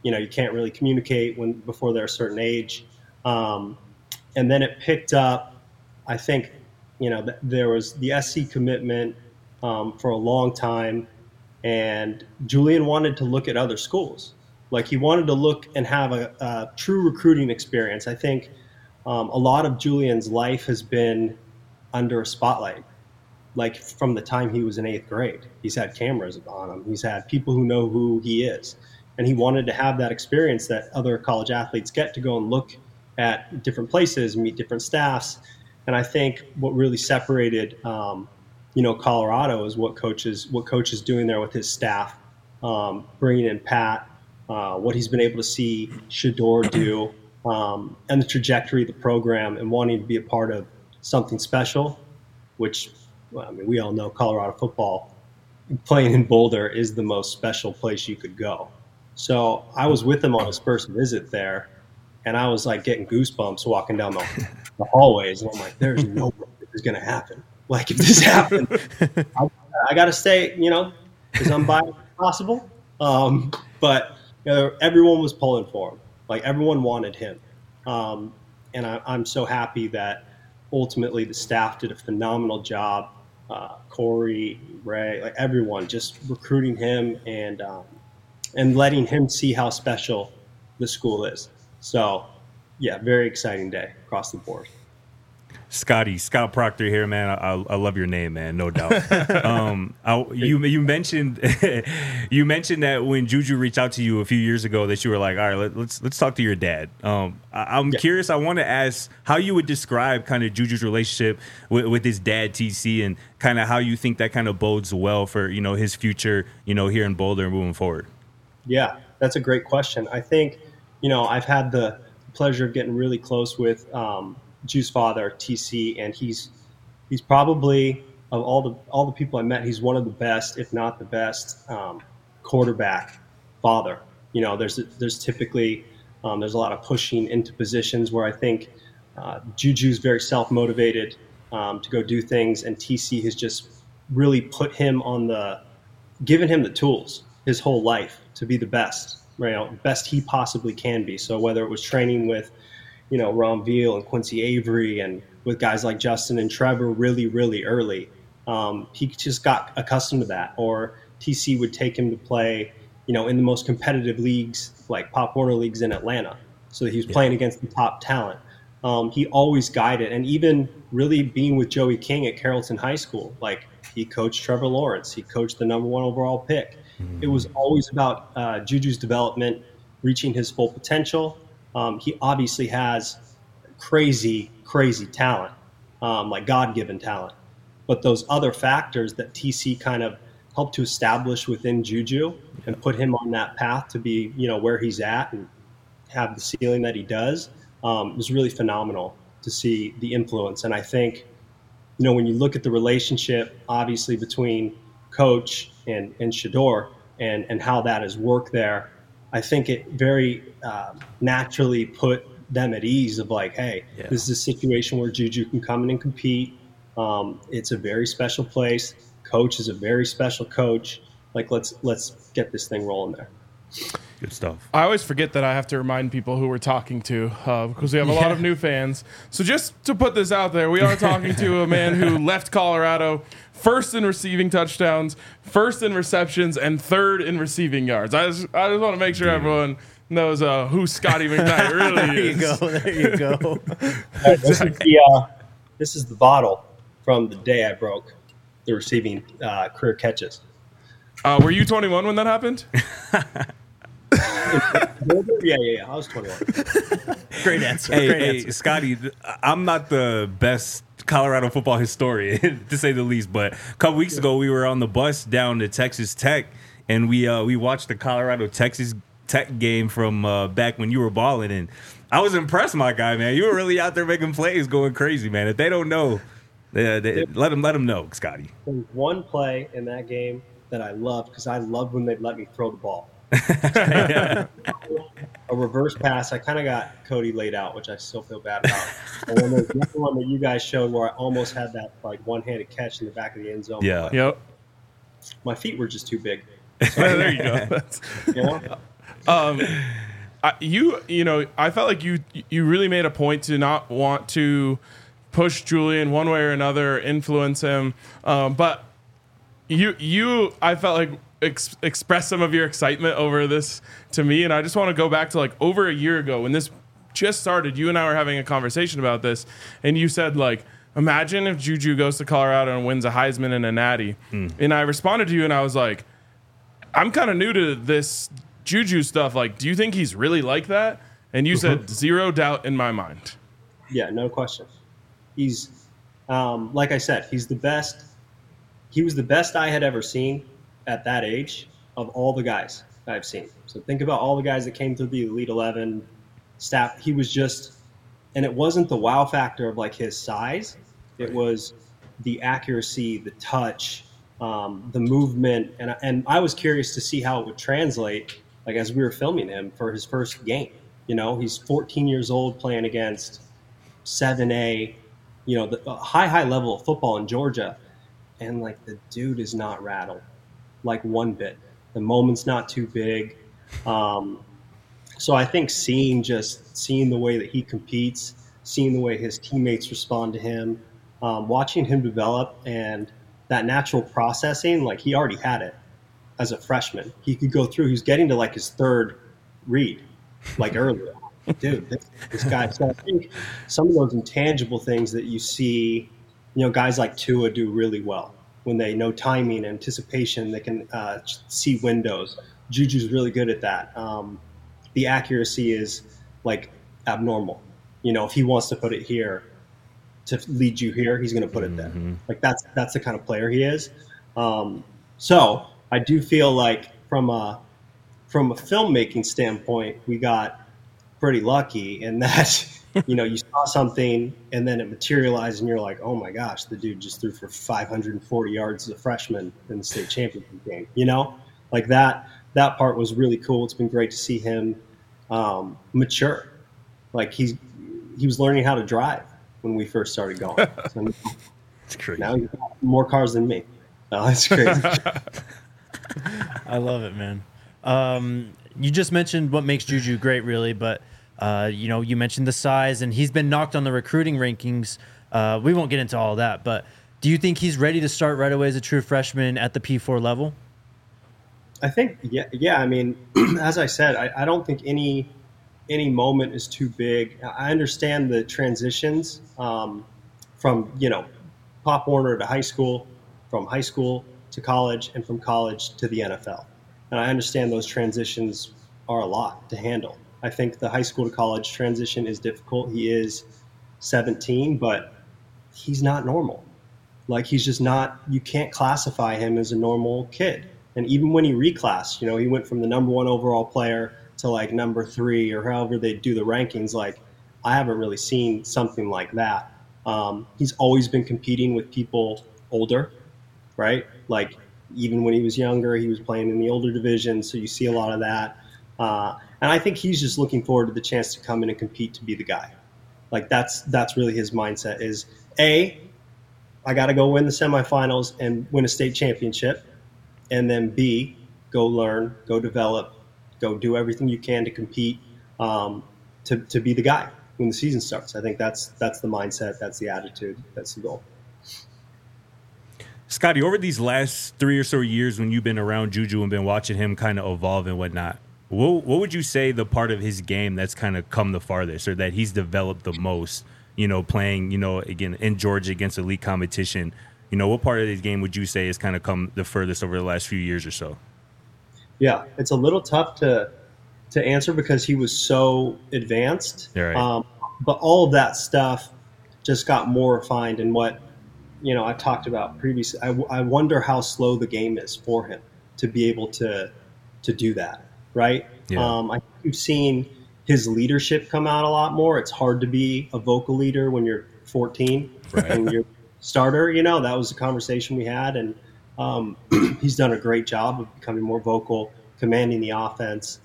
communicate before they're a certain age. And then it picked up. I think, there was the SC commitment for a long time, and Julian wanted to look at other schools. Like, he wanted to look and have a true recruiting experience. I think a lot of Julian's life has been under a spotlight. Like, from the time he was in 8th grade, he's had cameras on him. He's had people who know who he is. And he wanted to have that experience that other college athletes get, to go and look at different places, meet different staffs. And I think what really separated, Colorado is what coach is doing there with his staff, bringing in Pat, what he's been able to see Shedeur do, and the trajectory of the program, and wanting to be a part of something special, which, we all know Colorado football, playing in Boulder is the most special place you could go. So I was with him on his first visit there, and I was like getting goosebumps walking down the hallways. And I'm like, there's no way this is going to happen. Like, if this happened, I got to stay, as unbiased as possible. But everyone was pulling for him. Like, everyone wanted him. And I'm so happy that ultimately the staff did a phenomenal job. Corey, Ray, like everyone, just recruiting him and letting him see how special the school is. So, yeah, very exciting day across the board. Scott Proctor here, man. I love your name, man, no doubt. You mentioned you mentioned that when Juju reached out to you a few years ago, that you were like, all right, let's talk to your dad. I'm curious. I want to ask how you would describe kind of Juju's relationship with his dad, TC, and kind of how you think that kind of bodes well for his future, here in Boulder moving forward. Yeah, that's a great question. I think I've had the pleasure of getting really close with Ju's father, TC, and he's probably, of all the people I met, he's one of the best, if not the best, quarterback father. There's typically there's a lot of pushing into positions where I think Juju's very self-motivated to go do things, and TC has just really put him given him the tools his whole life to be the best, best he possibly can be. So whether it was training with Ron Veal and Quincy Avery and with guys like Justin and Trevor really, really early, he just got accustomed to that. Or TC would take him to play, in the most competitive leagues, like Pop Warner leagues in Atlanta. So he was playing against the top talent. He always guided, and even really being with Joey King at Carrollton High School, like he coached Trevor Lawrence, he coached the number 1 overall pick. Mm-hmm. It was always about Juju's development, reaching his full potential. He obviously has crazy, crazy talent, like God-given talent. But those other factors that TC kind of helped to establish within Juju and put him on that path to be, where he's at and have the ceiling that he does, was really phenomenal to see the influence. And I think, when you look at the relationship, obviously, between Coach and Shedeur and how that has worked there, I think it very naturally put them at ease of like, hey, this is a situation where Juju can come in and compete. It's a very special place. Coach is a very special coach. Like, let's get this thing rolling there. Good stuff. I always forget that I have to remind people who we're talking to because we have a lot of new fans. So just to put this out there, we are talking to a man who left Colorado first in receiving touchdowns, first in receptions, and third in receiving yards. I just want to make sure everyone knows who Scotty McKnight really is. There you go. This is the bottle from the day I broke the receiving career catches. Were you 21 when that happened? Yeah. I was 21. Great answer. Hey, Scotty, I'm not the best Colorado football historian, to say the least, but a couple weeks ago we were on the bus down to Texas Tech, and we watched the Colorado-Texas Tech game from back when you were balling, and I was impressed, my guy, man. You were really out there making plays, going crazy, man. If they don't know, let them know, Scotty. There's one play in that game that I loved because I loved when they'd let me throw the ball. A reverse pass. I kind of got Cody laid out, which I still feel bad about. And then there's the one that you guys showed where I almost had that like one-handed catch in the back of the end zone. Yeah. Yep. My feet were just too big. So, there you go. I felt like you really made a point to not want to push Julian one way or another, influence him, but I felt like express some of your excitement over this to me, and I just want to go back to like over a year ago when this just started. You and I were having a conversation about this, and you said like, imagine if Juju goes to Colorado and wins a Heisman and a Natty. And I responded to you and I was like, I'm kind of new to this Juju stuff. Like, do you think he's really like that? And you said 0 doubt in my mind. Yeah, no question. He's like I said, he's the best. He was the best I had ever seen at that age of all the guys I've seen. So think about all the guys that came through the Elite 11 staff. He was just, and it wasn't the wow factor of like his size. It was the accuracy, the touch, the movement. And I was curious to see how it would translate, like as we were filming him for his first game. He's 14 years old playing against 7A, the high level of football in Georgia. And like the dude is not rattled. Like one bit. The moment's not too big. So I think seeing the way that he competes, seeing the way his teammates respond to him, watching him develop, and that natural processing, like he already had it as a freshman. He could go through, he's getting to like his third read, like earlier. Dude, this guy. So I think some of those intangible things that you see, guys like Tua do really well when they know timing, anticipation, they can see windows. Juju's really good at that. The accuracy is like abnormal. If he wants to put it here to lead you here, he's going to put it there. Like that's the kind of player he is. So I do feel like from a filmmaking standpoint, we got pretty lucky in that, you saw something and then it materialized and you're like, oh my gosh, the dude just threw for 540 yards as a freshman in the state championship game. Like that part was really cool. It's been great to see him mature. Like he was learning how to drive when we first started going. So It's crazy. now he's got more cars than me. Oh, that's crazy. I love it, man. You just mentioned what makes Juju great, really, but you mentioned the size, and he's been knocked on the recruiting rankings. We won't get into all that, but do you think he's ready to start right away as a true freshman at the P4 level? I think, yeah. I mean, as I said, I don't think any moment is too big. I understand the transitions from Pop Warner to high school, from high school to college, and from college to the NFL. And I understand those transitions are a lot to handle. I think the high school to college transition is difficult. He is 17, but he's not normal. Like he's just not, you can't classify him as a normal kid. And even when he reclassed, he went from the number 1 overall player to like number 3 or however they do the rankings. Like I haven't really seen something like that. He's always been competing with people older, right? Like even when he was younger, he was playing in the older division. So you see a lot of that. And I think he's just looking forward to the chance to come in and compete to be the guy. Like that's really his mindset is A, I got to go win the semifinals and win a state championship. And then B, go learn, go develop, go do everything you can to compete, to be the guy when the season starts. I think that's the mindset, that's the attitude, that's the goal. Scotty, over these last 3 or so years when you've been around Juju and been watching him kind of evolve and whatnot, what would you say the part of his game that's kind of come the farthest or that he's developed the most, playing, again, in Georgia against elite competition? What part of his game would you say has kind of come the furthest over the last few years or so? Yeah, it's a little tough to answer because he was so advanced. Yeah, right. But all of that stuff just got more refined in what, I talked about previously. I wonder how slow the game is for him to be able to do that, right? Yeah. I think you've seen his leadership come out a lot more. It's hard to be a vocal leader when you're 14 and you're starter. That was the conversation we had, and he's done a great job of becoming more vocal, commanding the offense,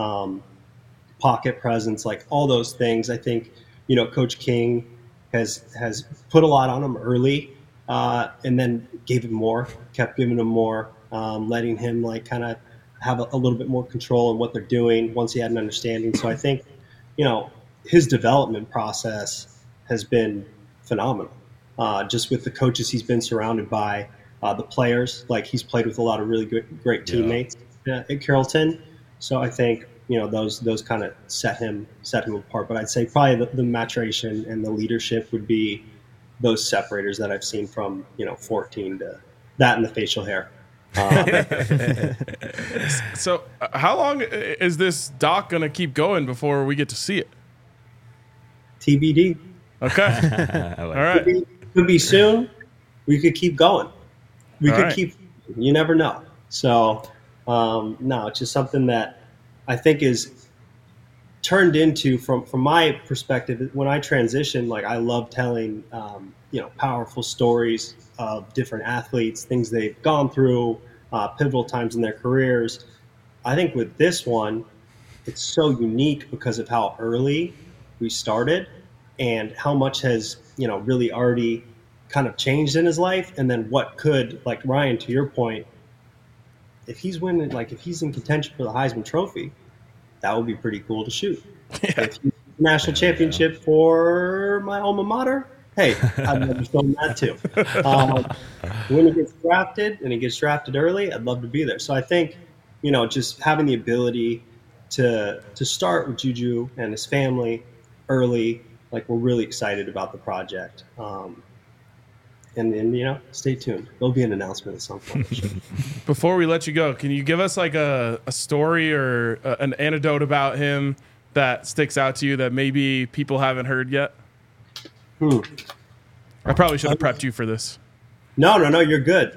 pocket presence, like all those things. I think Coach King has put a lot on him early, and then gave him more, kept giving him more, letting him like kind of have a little bit more control in what they're doing once he had an understanding. So I think his development process has been phenomenal. Just with the coaches he's been surrounded by, the players, like he's played with a lot of really great teammates at Carrollton. So I think those kind of set him apart. But I'd say probably the maturation and the leadership would be those separators that I've seen from 14 to that and the facial hair. So how long is this doc going to keep going before we get to see it? TBD. Okay. All right. Could be soon. We could keep going. We All could right. keep. You never know. So no, it's just something that I think is turned into, from my perspective, when I transition, like I love telling powerful stories of different athletes, things they've gone through, pivotal times in their careers. I think with this one, it's so unique because of how early we started and how much has really already kind of changed in his life, and then what could, like Ryan, to your point, if he's winning, like if he's in contention for the Heisman Trophy, that would be pretty cool to shoot. Yeah. If he's national championship for my alma mater. Hey, I'd love to film that too. When he gets drafted, and he gets drafted early, I'd love to be there. So I think, just having the ability to start with Juju and his family early, like, we're really excited about the project. And then, stay tuned. There'll be an announcement at some point. Before we let you go, can you give us like a story or an anecdote about him that sticks out to you that maybe people haven't heard yet? I probably should have prepped you for this. No, you're good.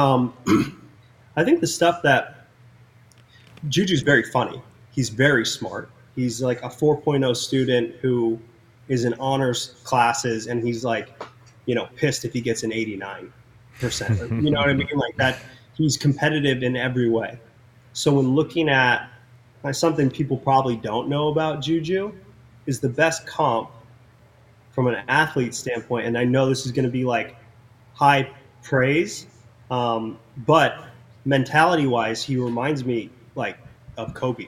I think the stuff that Juju's very funny. He's very smart. He's like a 4.0 student who is in honors classes, and he's like, pissed if he gets an 89%. You know what I mean? Like that. He's competitive in every way. So when looking at something people probably don't know about Juju is the best comp from an athlete standpoint. And I know this is going to be like high praise, but mentality wise, he reminds me like of Kobe.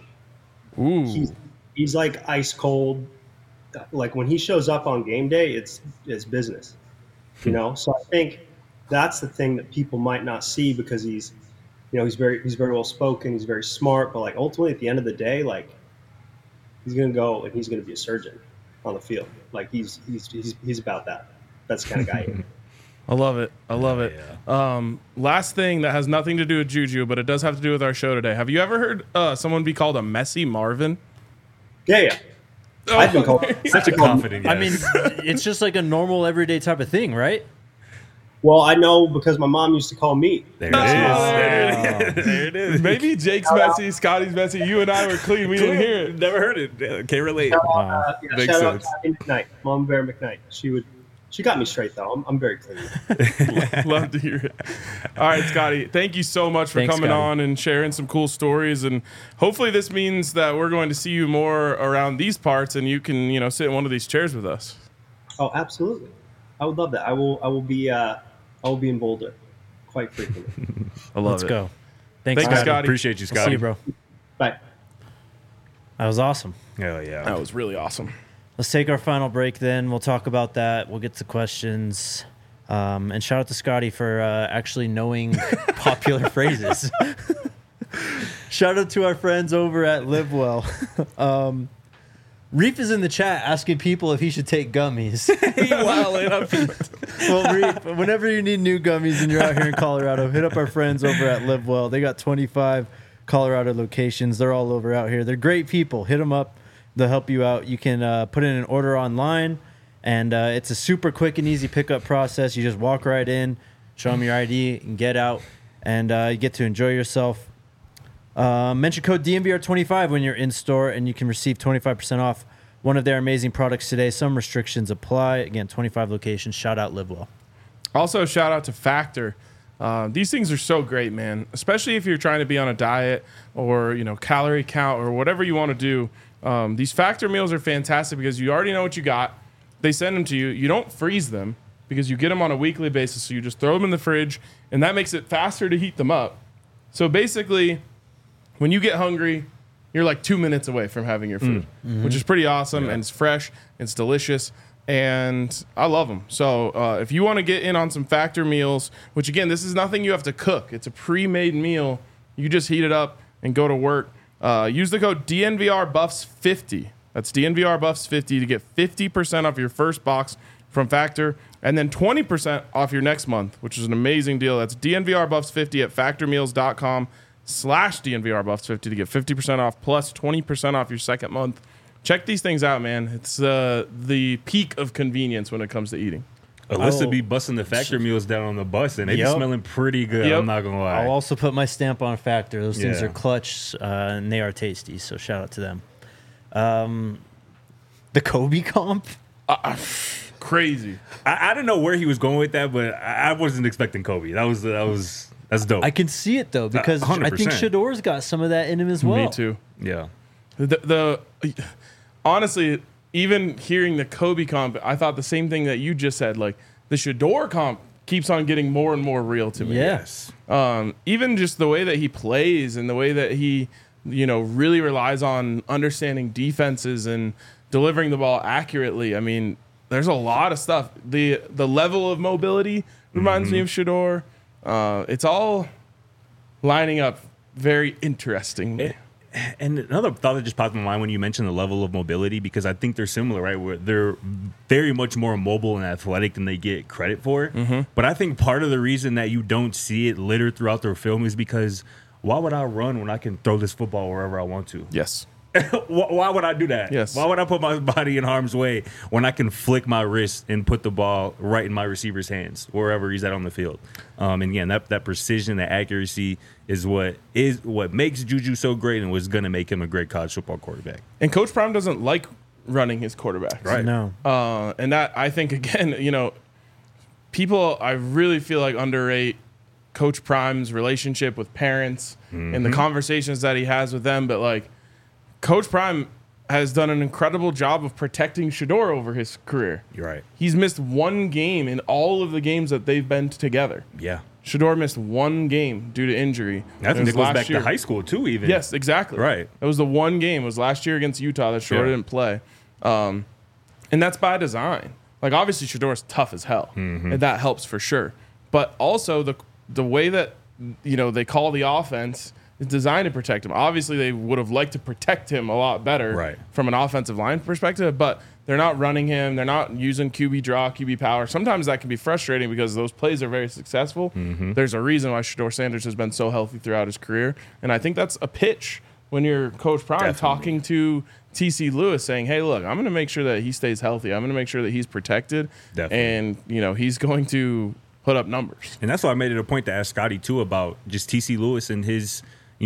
Ooh. He's like ice cold. Like when he shows up on game day, it's business, So I think that's the thing that people might not see because he's very well spoken. He's very smart, but like ultimately at the end of the day, like he's going to go and he's going to be a surgeon on the field. Like he's about that. That's the kind of guy he is. I love it. Yeah. Last thing that has nothing to do with Juju, but it does have to do with our show today. Have you ever heard someone be called a messy Marvin? Yeah. I've been called such a confident. Yes. I mean, it's just like a normal everyday type of thing, right? Well, I know because my mom used to call me. There it is. Maybe Jake's messy, Scotty's messy. You and I were clean. We didn't hear it. Never heard it. Can't relate. Shout out to Kathy McKnight, Mom Bear McKnight. She got me straight though. I'm very clean. Love to hear it. All right, Scotty. Thank you so much for coming on and sharing some cool stories. And hopefully this means that we're going to see you more around these parts, and you can sit in one of these chairs with us. Oh, absolutely. I would love that. I will be in Boulder quite frequently. Let's go. Thanks, Scotty. Appreciate you, Scotty. See you, bro. Bye. That was awesome. Hell yeah. That was really awesome. Let's take our final break then. We'll talk about that. We'll get to questions. And shout out to Scotty for actually knowing popular phrases. Shout out to our friends over at Live Well. Reef is in the chat asking people if he should take gummies. Well, Reef, whenever you need new gummies and you're out here in Colorado, hit up our friends over at Live Well. They got 25 Colorado locations. They're all over out here. They're great people. Hit them up. They'll help you out. You can put in an order online, and it's a super quick and easy pickup process. You just walk right in, show them your ID, and get out, and you get to enjoy yourself. Mention code DNVR25 when you're in store, and you can receive 25% off one of their amazing products today. Some restrictions apply. Again, 25 locations. Shout out Live Well. Also, shout out to Factor. These things are so great, man, especially if you're trying to be on a diet or calorie count or whatever you want to do. These Factor meals are fantastic because you already know what you got. They send them to you. You don't freeze them because you get them on a weekly basis. So you just throw them in the fridge, and that makes it faster to heat them up. So basically, when you get hungry, you're like 2 minutes away from having your food, which is pretty awesome. Yeah. And it's fresh, it's delicious, and I love them. So if you want to get in on some Factor meals, which again, this is nothing you have to cook. It's a pre-made meal. You just heat it up and go to work. Use the code DNVRBuffs50. That's DNVRBuffs50 to get 50% off your first box from Factor, and then 20% off your next month, which is an amazing deal. That's DNVRBuffs50 at factormeals.com/DNVRBuffs50 to get 50% off plus 20% off your second month. Check these things out, man. It's the peak of convenience when it comes to eating. Alyssa be busting the Factor meals down on the bus, and they be smelling pretty good. I'm not going to lie. I'll also put my stamp on Factor. Those things are clutch, and they are tasty, so shout out to them. The Kobe comp? Crazy. I don't know where he was going with that, but I wasn't expecting Kobe. That's dope. I can see it, though, because 100%. I think Shedor's got some of that in him as well. Me too. Yeah. Honestly, even hearing the Kobe comp, I thought the same thing that you just said. Like, the Shedor comp keeps on getting more and more real to me. Yes. Even just the way that he plays and the way that he, really relies on understanding defenses and delivering the ball accurately. I mean, there's a lot of stuff. The level of mobility reminds me of Shedeur. It's all lining up very interestingly. And another thought that just popped in my mind when you mentioned the level of mobility, because I think they're similar, right? Where they're very much more mobile and athletic than they get credit for. But I think part of the reason that you don't see it littered throughout their film is because why would I run when I can throw this football wherever I want to? Yes. Why would I do that? Yes. Why would I put my body in harm's way when I can flick my wrist and put the ball right in my receiver's hands, wherever he's at on the field? And again, that precision, that accuracy is what makes Juju so great and was going to make him a great college football quarterback. And Coach Prime doesn't like running his quarterbacks. Right. No. And that, I think, again, people, I really feel like underrate Coach Prime's relationship with parents and the conversations that he has with them. But, like, Coach Prime has done an incredible job of protecting Shedeur over his career. You're right. He's missed one game in all of the games that they've been together. Yeah. Shedeur missed one game due to injury. I think it goes back year. to high school, too, even. Yes, exactly. Right. That was the one game. It was last year against Utah that Shedeur didn't play. And that's by design. Like, obviously, Shedeur's tough as hell. And that helps for sure. But also, the way that, they call the offense is designed to protect him. Obviously, they would have liked to protect him a lot better from an offensive line perspective, but they're not running him. They're not using QB draw, QB power. Sometimes that can be frustrating because those plays are very successful. There's a reason why Shedeur Sanders has been so healthy throughout his career, and I think that's a pitch when you're Coach Prime talking to TC Lewis saying, hey, look, I'm going to make sure that he stays healthy. I'm going to make sure that he's protected, and he's going to put up numbers. And that's why I made it a point to ask Scotty, too, about just TC Lewis and his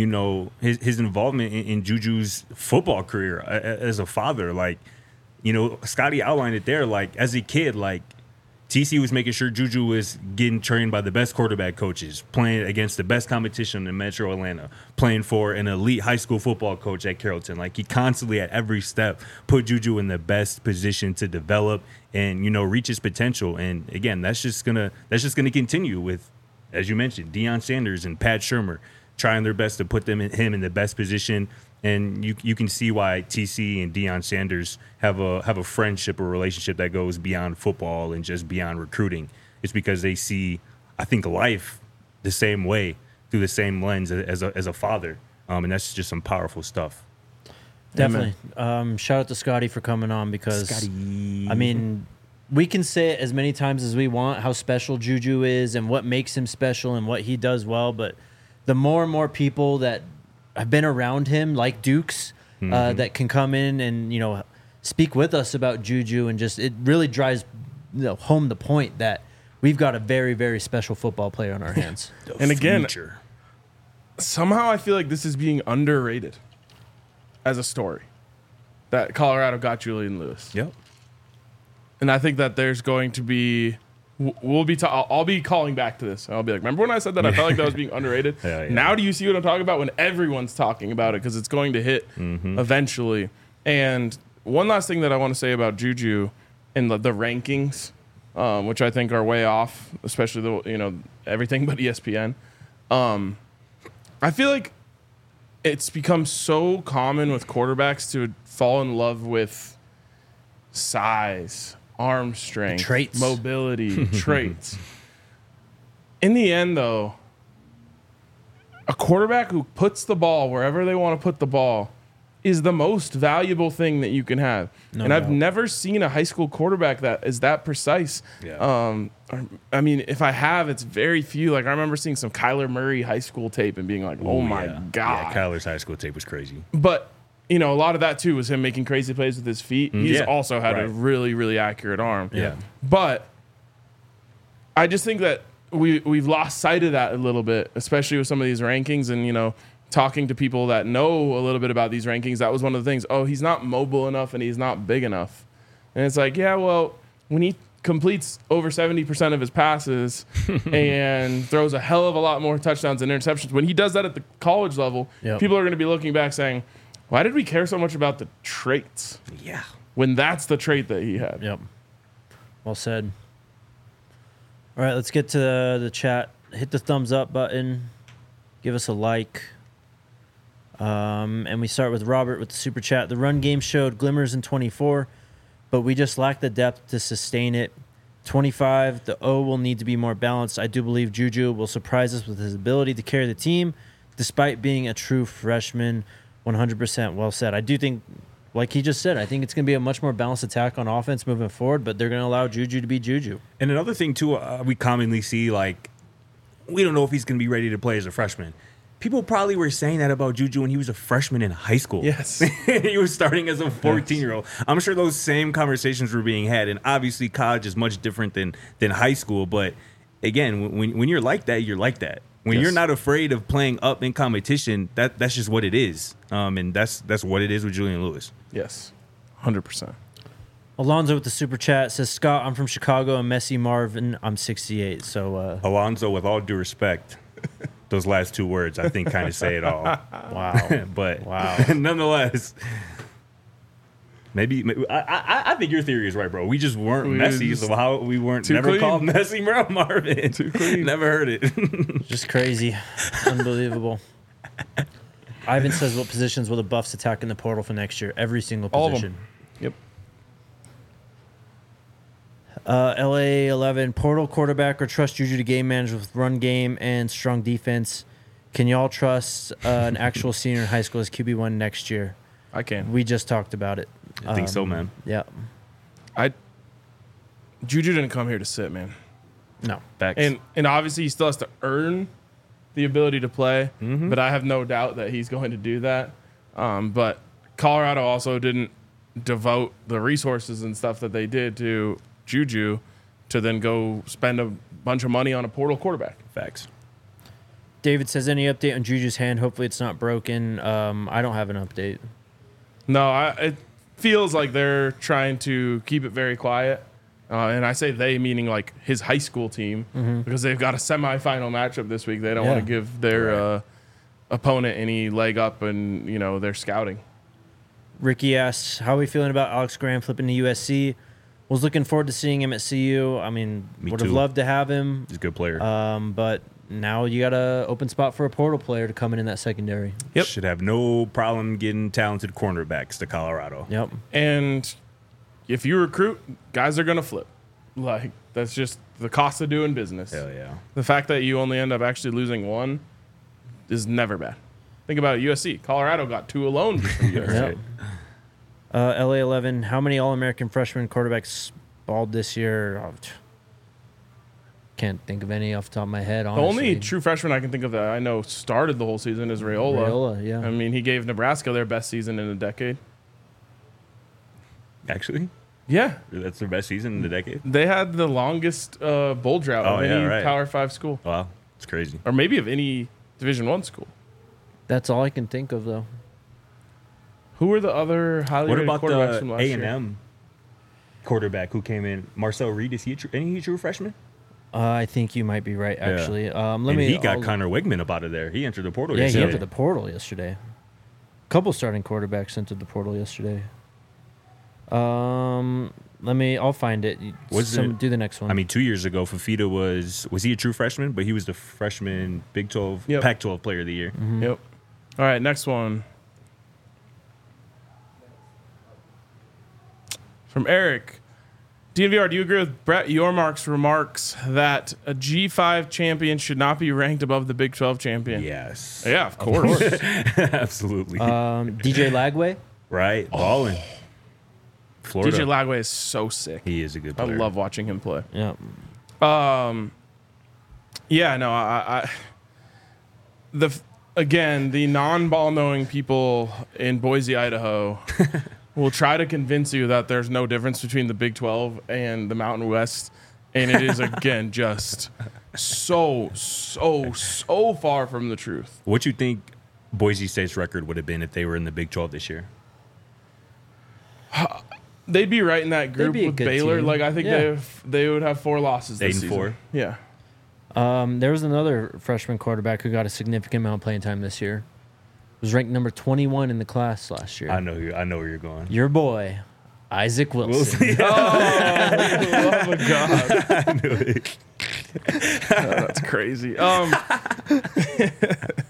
his involvement in Juju's football career as a father. Like, Scotty outlined it there. Like, as a kid, like, TC was making sure Juju was getting trained by the best quarterback coaches, playing against the best competition in Metro Atlanta, playing for an elite high school football coach at Carrollton. Like, he constantly, at every step, put Juju in the best position to develop and, reach his potential. And again, that's just gonna continue with, as you mentioned, Deion Sanders and Pat Shurmur trying their best to put him in the best position. And you can see why TC and Deion Sanders have a friendship or relationship that goes beyond football and just beyond recruiting. It's because they see, I think, life the same way through the same lens as a father. And that's just some powerful stuff. Definitely. Shout out to Scotty for coming on because, Scotty. I mean, we can say it as many times as we want how special Juju is and what makes him special and what he does well, but the more and more people that have been around him, like Dukes, that can come in and speak with us about Juju, and just it really drives home the point that we've got a very, very special football player on our hands. And again, somehow I feel like this is being underrated as a story that Colorado got Julian Lewis. Yep. And I think that there's going to be. I'll be calling back to this. I'll be like, remember when I said that I felt like that was being underrated? Yeah. Now do you see what I'm talking about when everyone's talking about it? Because it's going to hit eventually. And one last thing that I want to say about Juju in the rankings, which I think are way off, especially everything but ESPN. I feel like it's become so common with quarterbacks to fall in love with size, arm strength, Traits. mobility, traits. In the end, though, a quarterback who puts the ball wherever they want to put the ball is the most valuable thing that you can have. No and I've doubt. never seen a high school quarterback that is that precise. Yeah. I mean, if I have, it's very few. Like, I remember seeing some Kyler Murray high school tape and being like, oh my God. Yeah, Kyler's high school tape was crazy. But a lot of that too was him making crazy plays with his feet. He's also had a really, really accurate arm. Yeah. But I just think that we've lost sight of that a little bit, especially with some of these rankings and, talking to people that know a little bit about these rankings. That was one of the things. Oh, he's not mobile enough and he's not big enough. And it's like, yeah, well, when he completes over 70% of his passes and throws a hell of a lot more touchdowns and interceptions, when he does that at the college level, people are going to be looking back saying, why did we care so much about the traits? Yeah. When that's the trait that he had. Yep. Well said. All right, let's get to the chat. Hit the thumbs up button. Give us a like. And we start with Robert with the super chat. The run game showed glimmers in 24, but we just lack the depth to sustain it. 25, the O will need to be more balanced. I do believe Juju will surprise us with his ability to carry the team, despite being a true freshman. 100% well said. I do think, like he just said, I think it's going to be a much more balanced attack on offense moving forward, but they're going to allow Juju to be Juju. And another thing, too, we commonly see, like, we don't know if he's going to be ready to play as a freshman. People probably were saying that about Juju when he was a freshman in high school. Yes. He was starting as a 14-year-old. I'm sure those same conversations were being had. And obviously, college is much different than high school. But again, when you're like that, you're like that. When you're not afraid of playing up in competition, that's just what it is. And that's what it is with Julian Lewis. Yes, 100%. Alonzo with the super chat says, Scott, I'm from Chicago, and Messi Marvin, I'm 68. So, Alonzo, with all due respect, those last two words, I think, kind of say it all. wow. But Wow. nonetheless, maybe I think your theory is right, bro. We just weren't Messi, so how we weren't never clean. called Messi Marvin. Too clean. Never heard it. Just crazy. Unbelievable. Ivan says, what positions will the Buffs attack in the portal for next year? Every single All of position. them. Yep. LA 11, portal quarterback or trust Juju to game manage with run game and strong defense. Can y'all trust an actual senior in high school as QB1 next year? I can. We just talked about it. I think so, man. Yeah. Juju didn't come here to sit, man. No. Facts. And obviously he still has to earn the ability to play, but I have no doubt that he's going to do that. But Colorado also didn't devote the resources and stuff that they did to Juju to then go spend a bunch of money on a portal quarterback. Facts. David says, any update on Juju's hand? Hopefully it's not broken. I don't have an update. No, it feels like they're trying to keep it very quiet. And I say they, meaning like his high school team, because they've got a semifinal matchup this week. They don't want to give their opponent any leg up in, their scouting. Ricky asks, how are we feeling about Alex Graham flipping to USC? Was looking forward to seeing him at CU. I mean, would have loved to have him. He's a good player. But now you got an open spot for a portal player to come in that secondary. Yep. Should have no problem getting talented cornerbacks to Colorado. Yep. And if you recruit, guys are going to flip. Like, that's just the cost of doing business. Hell yeah. The fact that you only end up actually losing one is never bad. Think about it, USC. Colorado got two alone just from USC. Yep. LA 11, how many All-American freshman quarterbacks balled this year? Oh, can't think of any off the top of my head, honestly. The only true freshman I can think of that I know started the whole season is Raiola. Raiola, yeah. I mean, he gave Nebraska their best season in a decade. Actually, Yeah. that's their best season in the decade. They had the longest bowl drought of any Power 5 school. Wow, it's crazy. Or maybe of any Division I school. That's all I can think of, though. Who were the other highly What rated about quarterbacks from the last year? A&M quarterback who came in? Marcel Reed, is he a true freshman? I think you might be right, actually. He got Connor Wigman up out of there. He entered the portal Yeah, he yesterday. entered the portal yesterday. A couple starting quarterbacks entered the portal yesterday. I'll find it. Do the next one. I mean, 2 years ago, Fafita was he a true freshman? But he was the freshman Big 12, Pac-12 player of the year. Yep. All right, next one. From Eric. DNVR, do you agree with Brett Yormark's remarks that a G5 champion should not be ranked above the Big 12 champion? Yes. Yeah, of course. Absolutely. DJ Lagway? Right. Balling. Florida. DJ Lagway is so sick. He is a good I player. love watching him play. Yeah. Yeah, no, the non-ball knowing people in Boise, Idaho will try to convince you that there's no difference between the Big 12 and the Mountain West. And it is, again, just so far from the truth. What you think Boise State's record would have been if they were in the Big 12 this year? They'd be right in that group be a with good Baylor. team. Like, I think Yeah. they would have 4 losses this 8-4. season. Yeah. There was another freshman quarterback who got a significant amount of playing time this year. Was ranked number 21 in the class last year. I know where you're going. Your boy, Isaac Wilson. Oh my God. I knew it. That's crazy.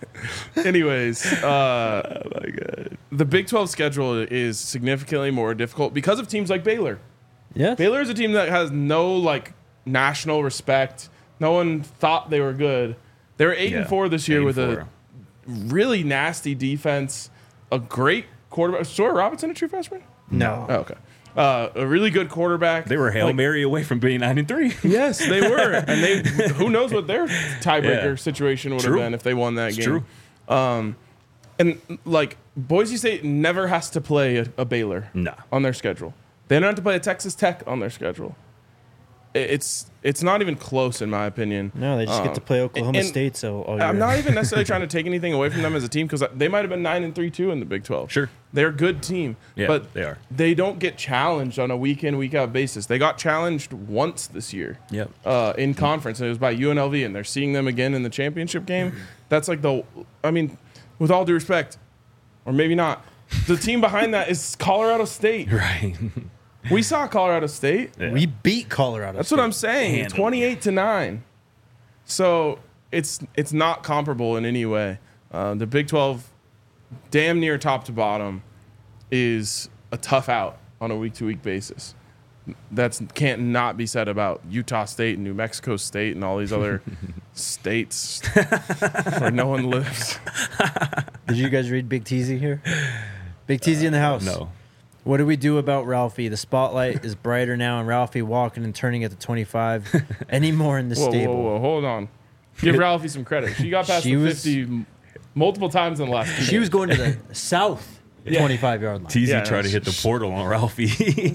Anyways, oh my God. The Big 12 schedule is significantly more difficult because of teams like Baylor. Yes. Baylor is a team that has no like national respect. No one thought they were good. They were 8-4 this year with a really nasty defense, a great quarterback. Was Sawyer Robinson a true freshman? No. Oh, okay. A really good quarterback. They were Hail Mary away from being 9-3. Yes, they were, and they. Who knows what their tiebreaker situation would have been if they won that game. True. And like Boise State never has to play a Baylor on their schedule. They don't have to play a Texas Tech on their schedule. It's not even close in my opinion. No, they just get to play Oklahoma State. So I'm not even necessarily trying to take anything away from them as a team because they might have been 9-3 too in the Big 12. Sure, they're a good team, but they are. They don't get challenged on a week in week out basis. They got challenged once this year. Yep. In conference, and it was by UNLV, and they're seeing them again in the championship game. That's like with all due respect, or maybe not, the team behind that is Colorado State. Right. We saw Colorado State. Yeah. We beat Colorado That's State. what I'm saying. 28-9. So it's not comparable in any way. The Big 12, damn near top to bottom, is a tough out on a week-to-week basis. That can't not be said about Utah State and New Mexico State and all these other states where no one lives. Did you guys read Big Teasy here? Big Teasy in the house. No. What do we do about Ralphie? The spotlight is brighter now, and Ralphie walking and turning at the 25. Any more in the stable? Whoa, hold on. Give Ralphie some credit. She got past the 50 multiple times in the last 2 She was going to the south 25-yard line. Teasy tried to hit the portal on Ralphie.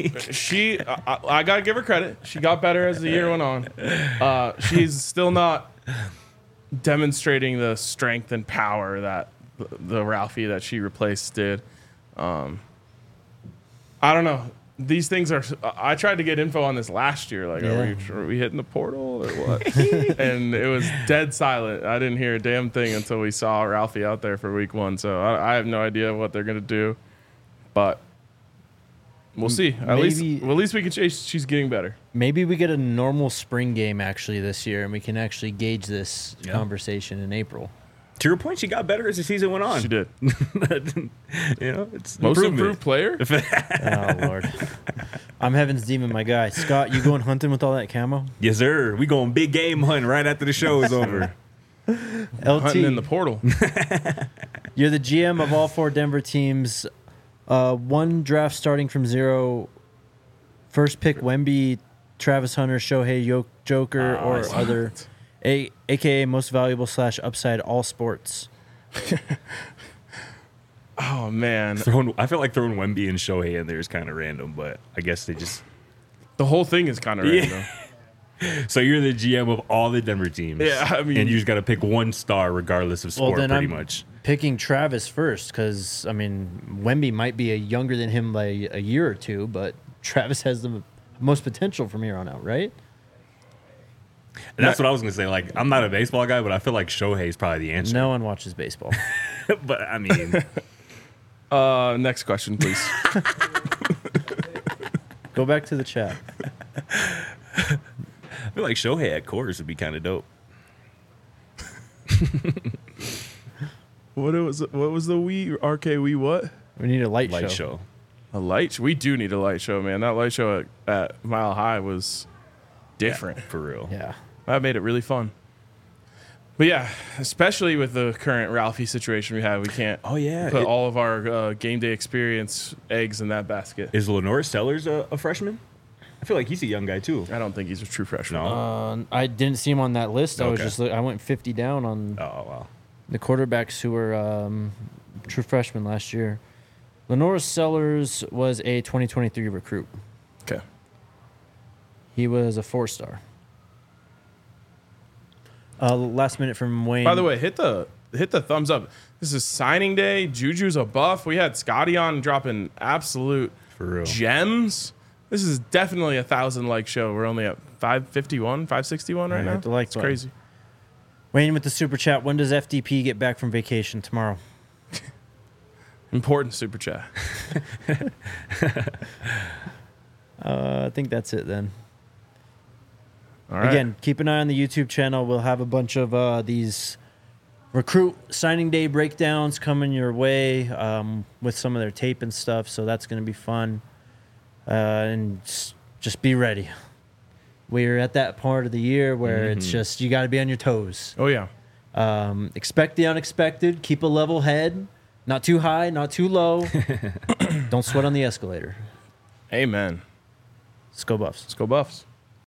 I got to give her credit. She got better as the year went on. She's still not demonstrating the strength and power that the Ralphie that she replaced did. I don't know. These things are. I tried to get info on this last year. Like, are we hitting the portal or what? And it was dead silent. I didn't hear a damn thing until we saw Ralphie out there for week 1. So I have no idea what they're gonna do, but we'll see. At least we can chase. She's getting better. Maybe we get a normal spring game actually this year, and we can actually gauge this conversation in April. To your point, she got better as the season went on. She did. It's most improved player. Oh Lord, I'm Heaven's Demon, my guy. Scott, you going hunting with all that camo? Yes, sir. We going big game hunting right after the show is over. LT, Hunting in the portal. You're the GM of all 4 Denver teams. One draft starting from 0. First pick: Wemby, Travis Hunter, Shohei Joker, or other. AKA most valuable / upside all sports. Oh man, I feel like throwing Wemby and Shohei in there is kind of random, but I guess they just the whole thing is kind of random. So you're the GM of all the Denver teams, I mean, and you just got to pick one star regardless of sport, pretty much. Picking Travis first because I mean Wemby might be younger than him by a year or 2, but Travis has the most potential from here on out, right? And that's what I was going to say. Like, I'm not a baseball guy, but I feel like Shohei's probably the answer. No one watches baseball. But, I mean... next question, please. Go back to the chat. I feel like Shohei at Coors would be kind of dope. What was the Wii? RK Wii what? We need a light show. A light show? We do need a light show, man. That light show at Mile High was different. Yeah, for real. Yeah. That made it really fun. But yeah, especially with the current Ralphie situation we have, we can't put all of our game day experience eggs in that basket. Is Lenore Sellers a freshman? I feel like he's a young guy, too. I don't think he's a true freshman. No. I didn't see him on that list. Okay. I went 50 down on the quarterbacks who were true freshmen last year. Lenore Sellers was a 2023 recruit. Okay. He was a 4-star. Last minute from Wayne. By the way, hit the thumbs up. This is signing day. Juju's a buff. We had Scotty on dropping absolute for real gems. This is definitely a 1,000 show. We're only at 551, 561 right now. It's crazy. Wayne with the super chat. When does FDP get back from vacation? Tomorrow. Important super chat. I think that's it then. All right. Again, keep an eye on the YouTube channel. We'll have a bunch of these recruit signing day breakdowns coming your way with some of their tape and stuff. So that's going to be fun. And just be ready. We're at that part of the year where it's just, you got to be on your toes. Oh, yeah. Expect the unexpected. Keep a level head. Not too high, not too low. Don't sweat on the escalator. Amen. Let's go Buffs. Let's go Buffs.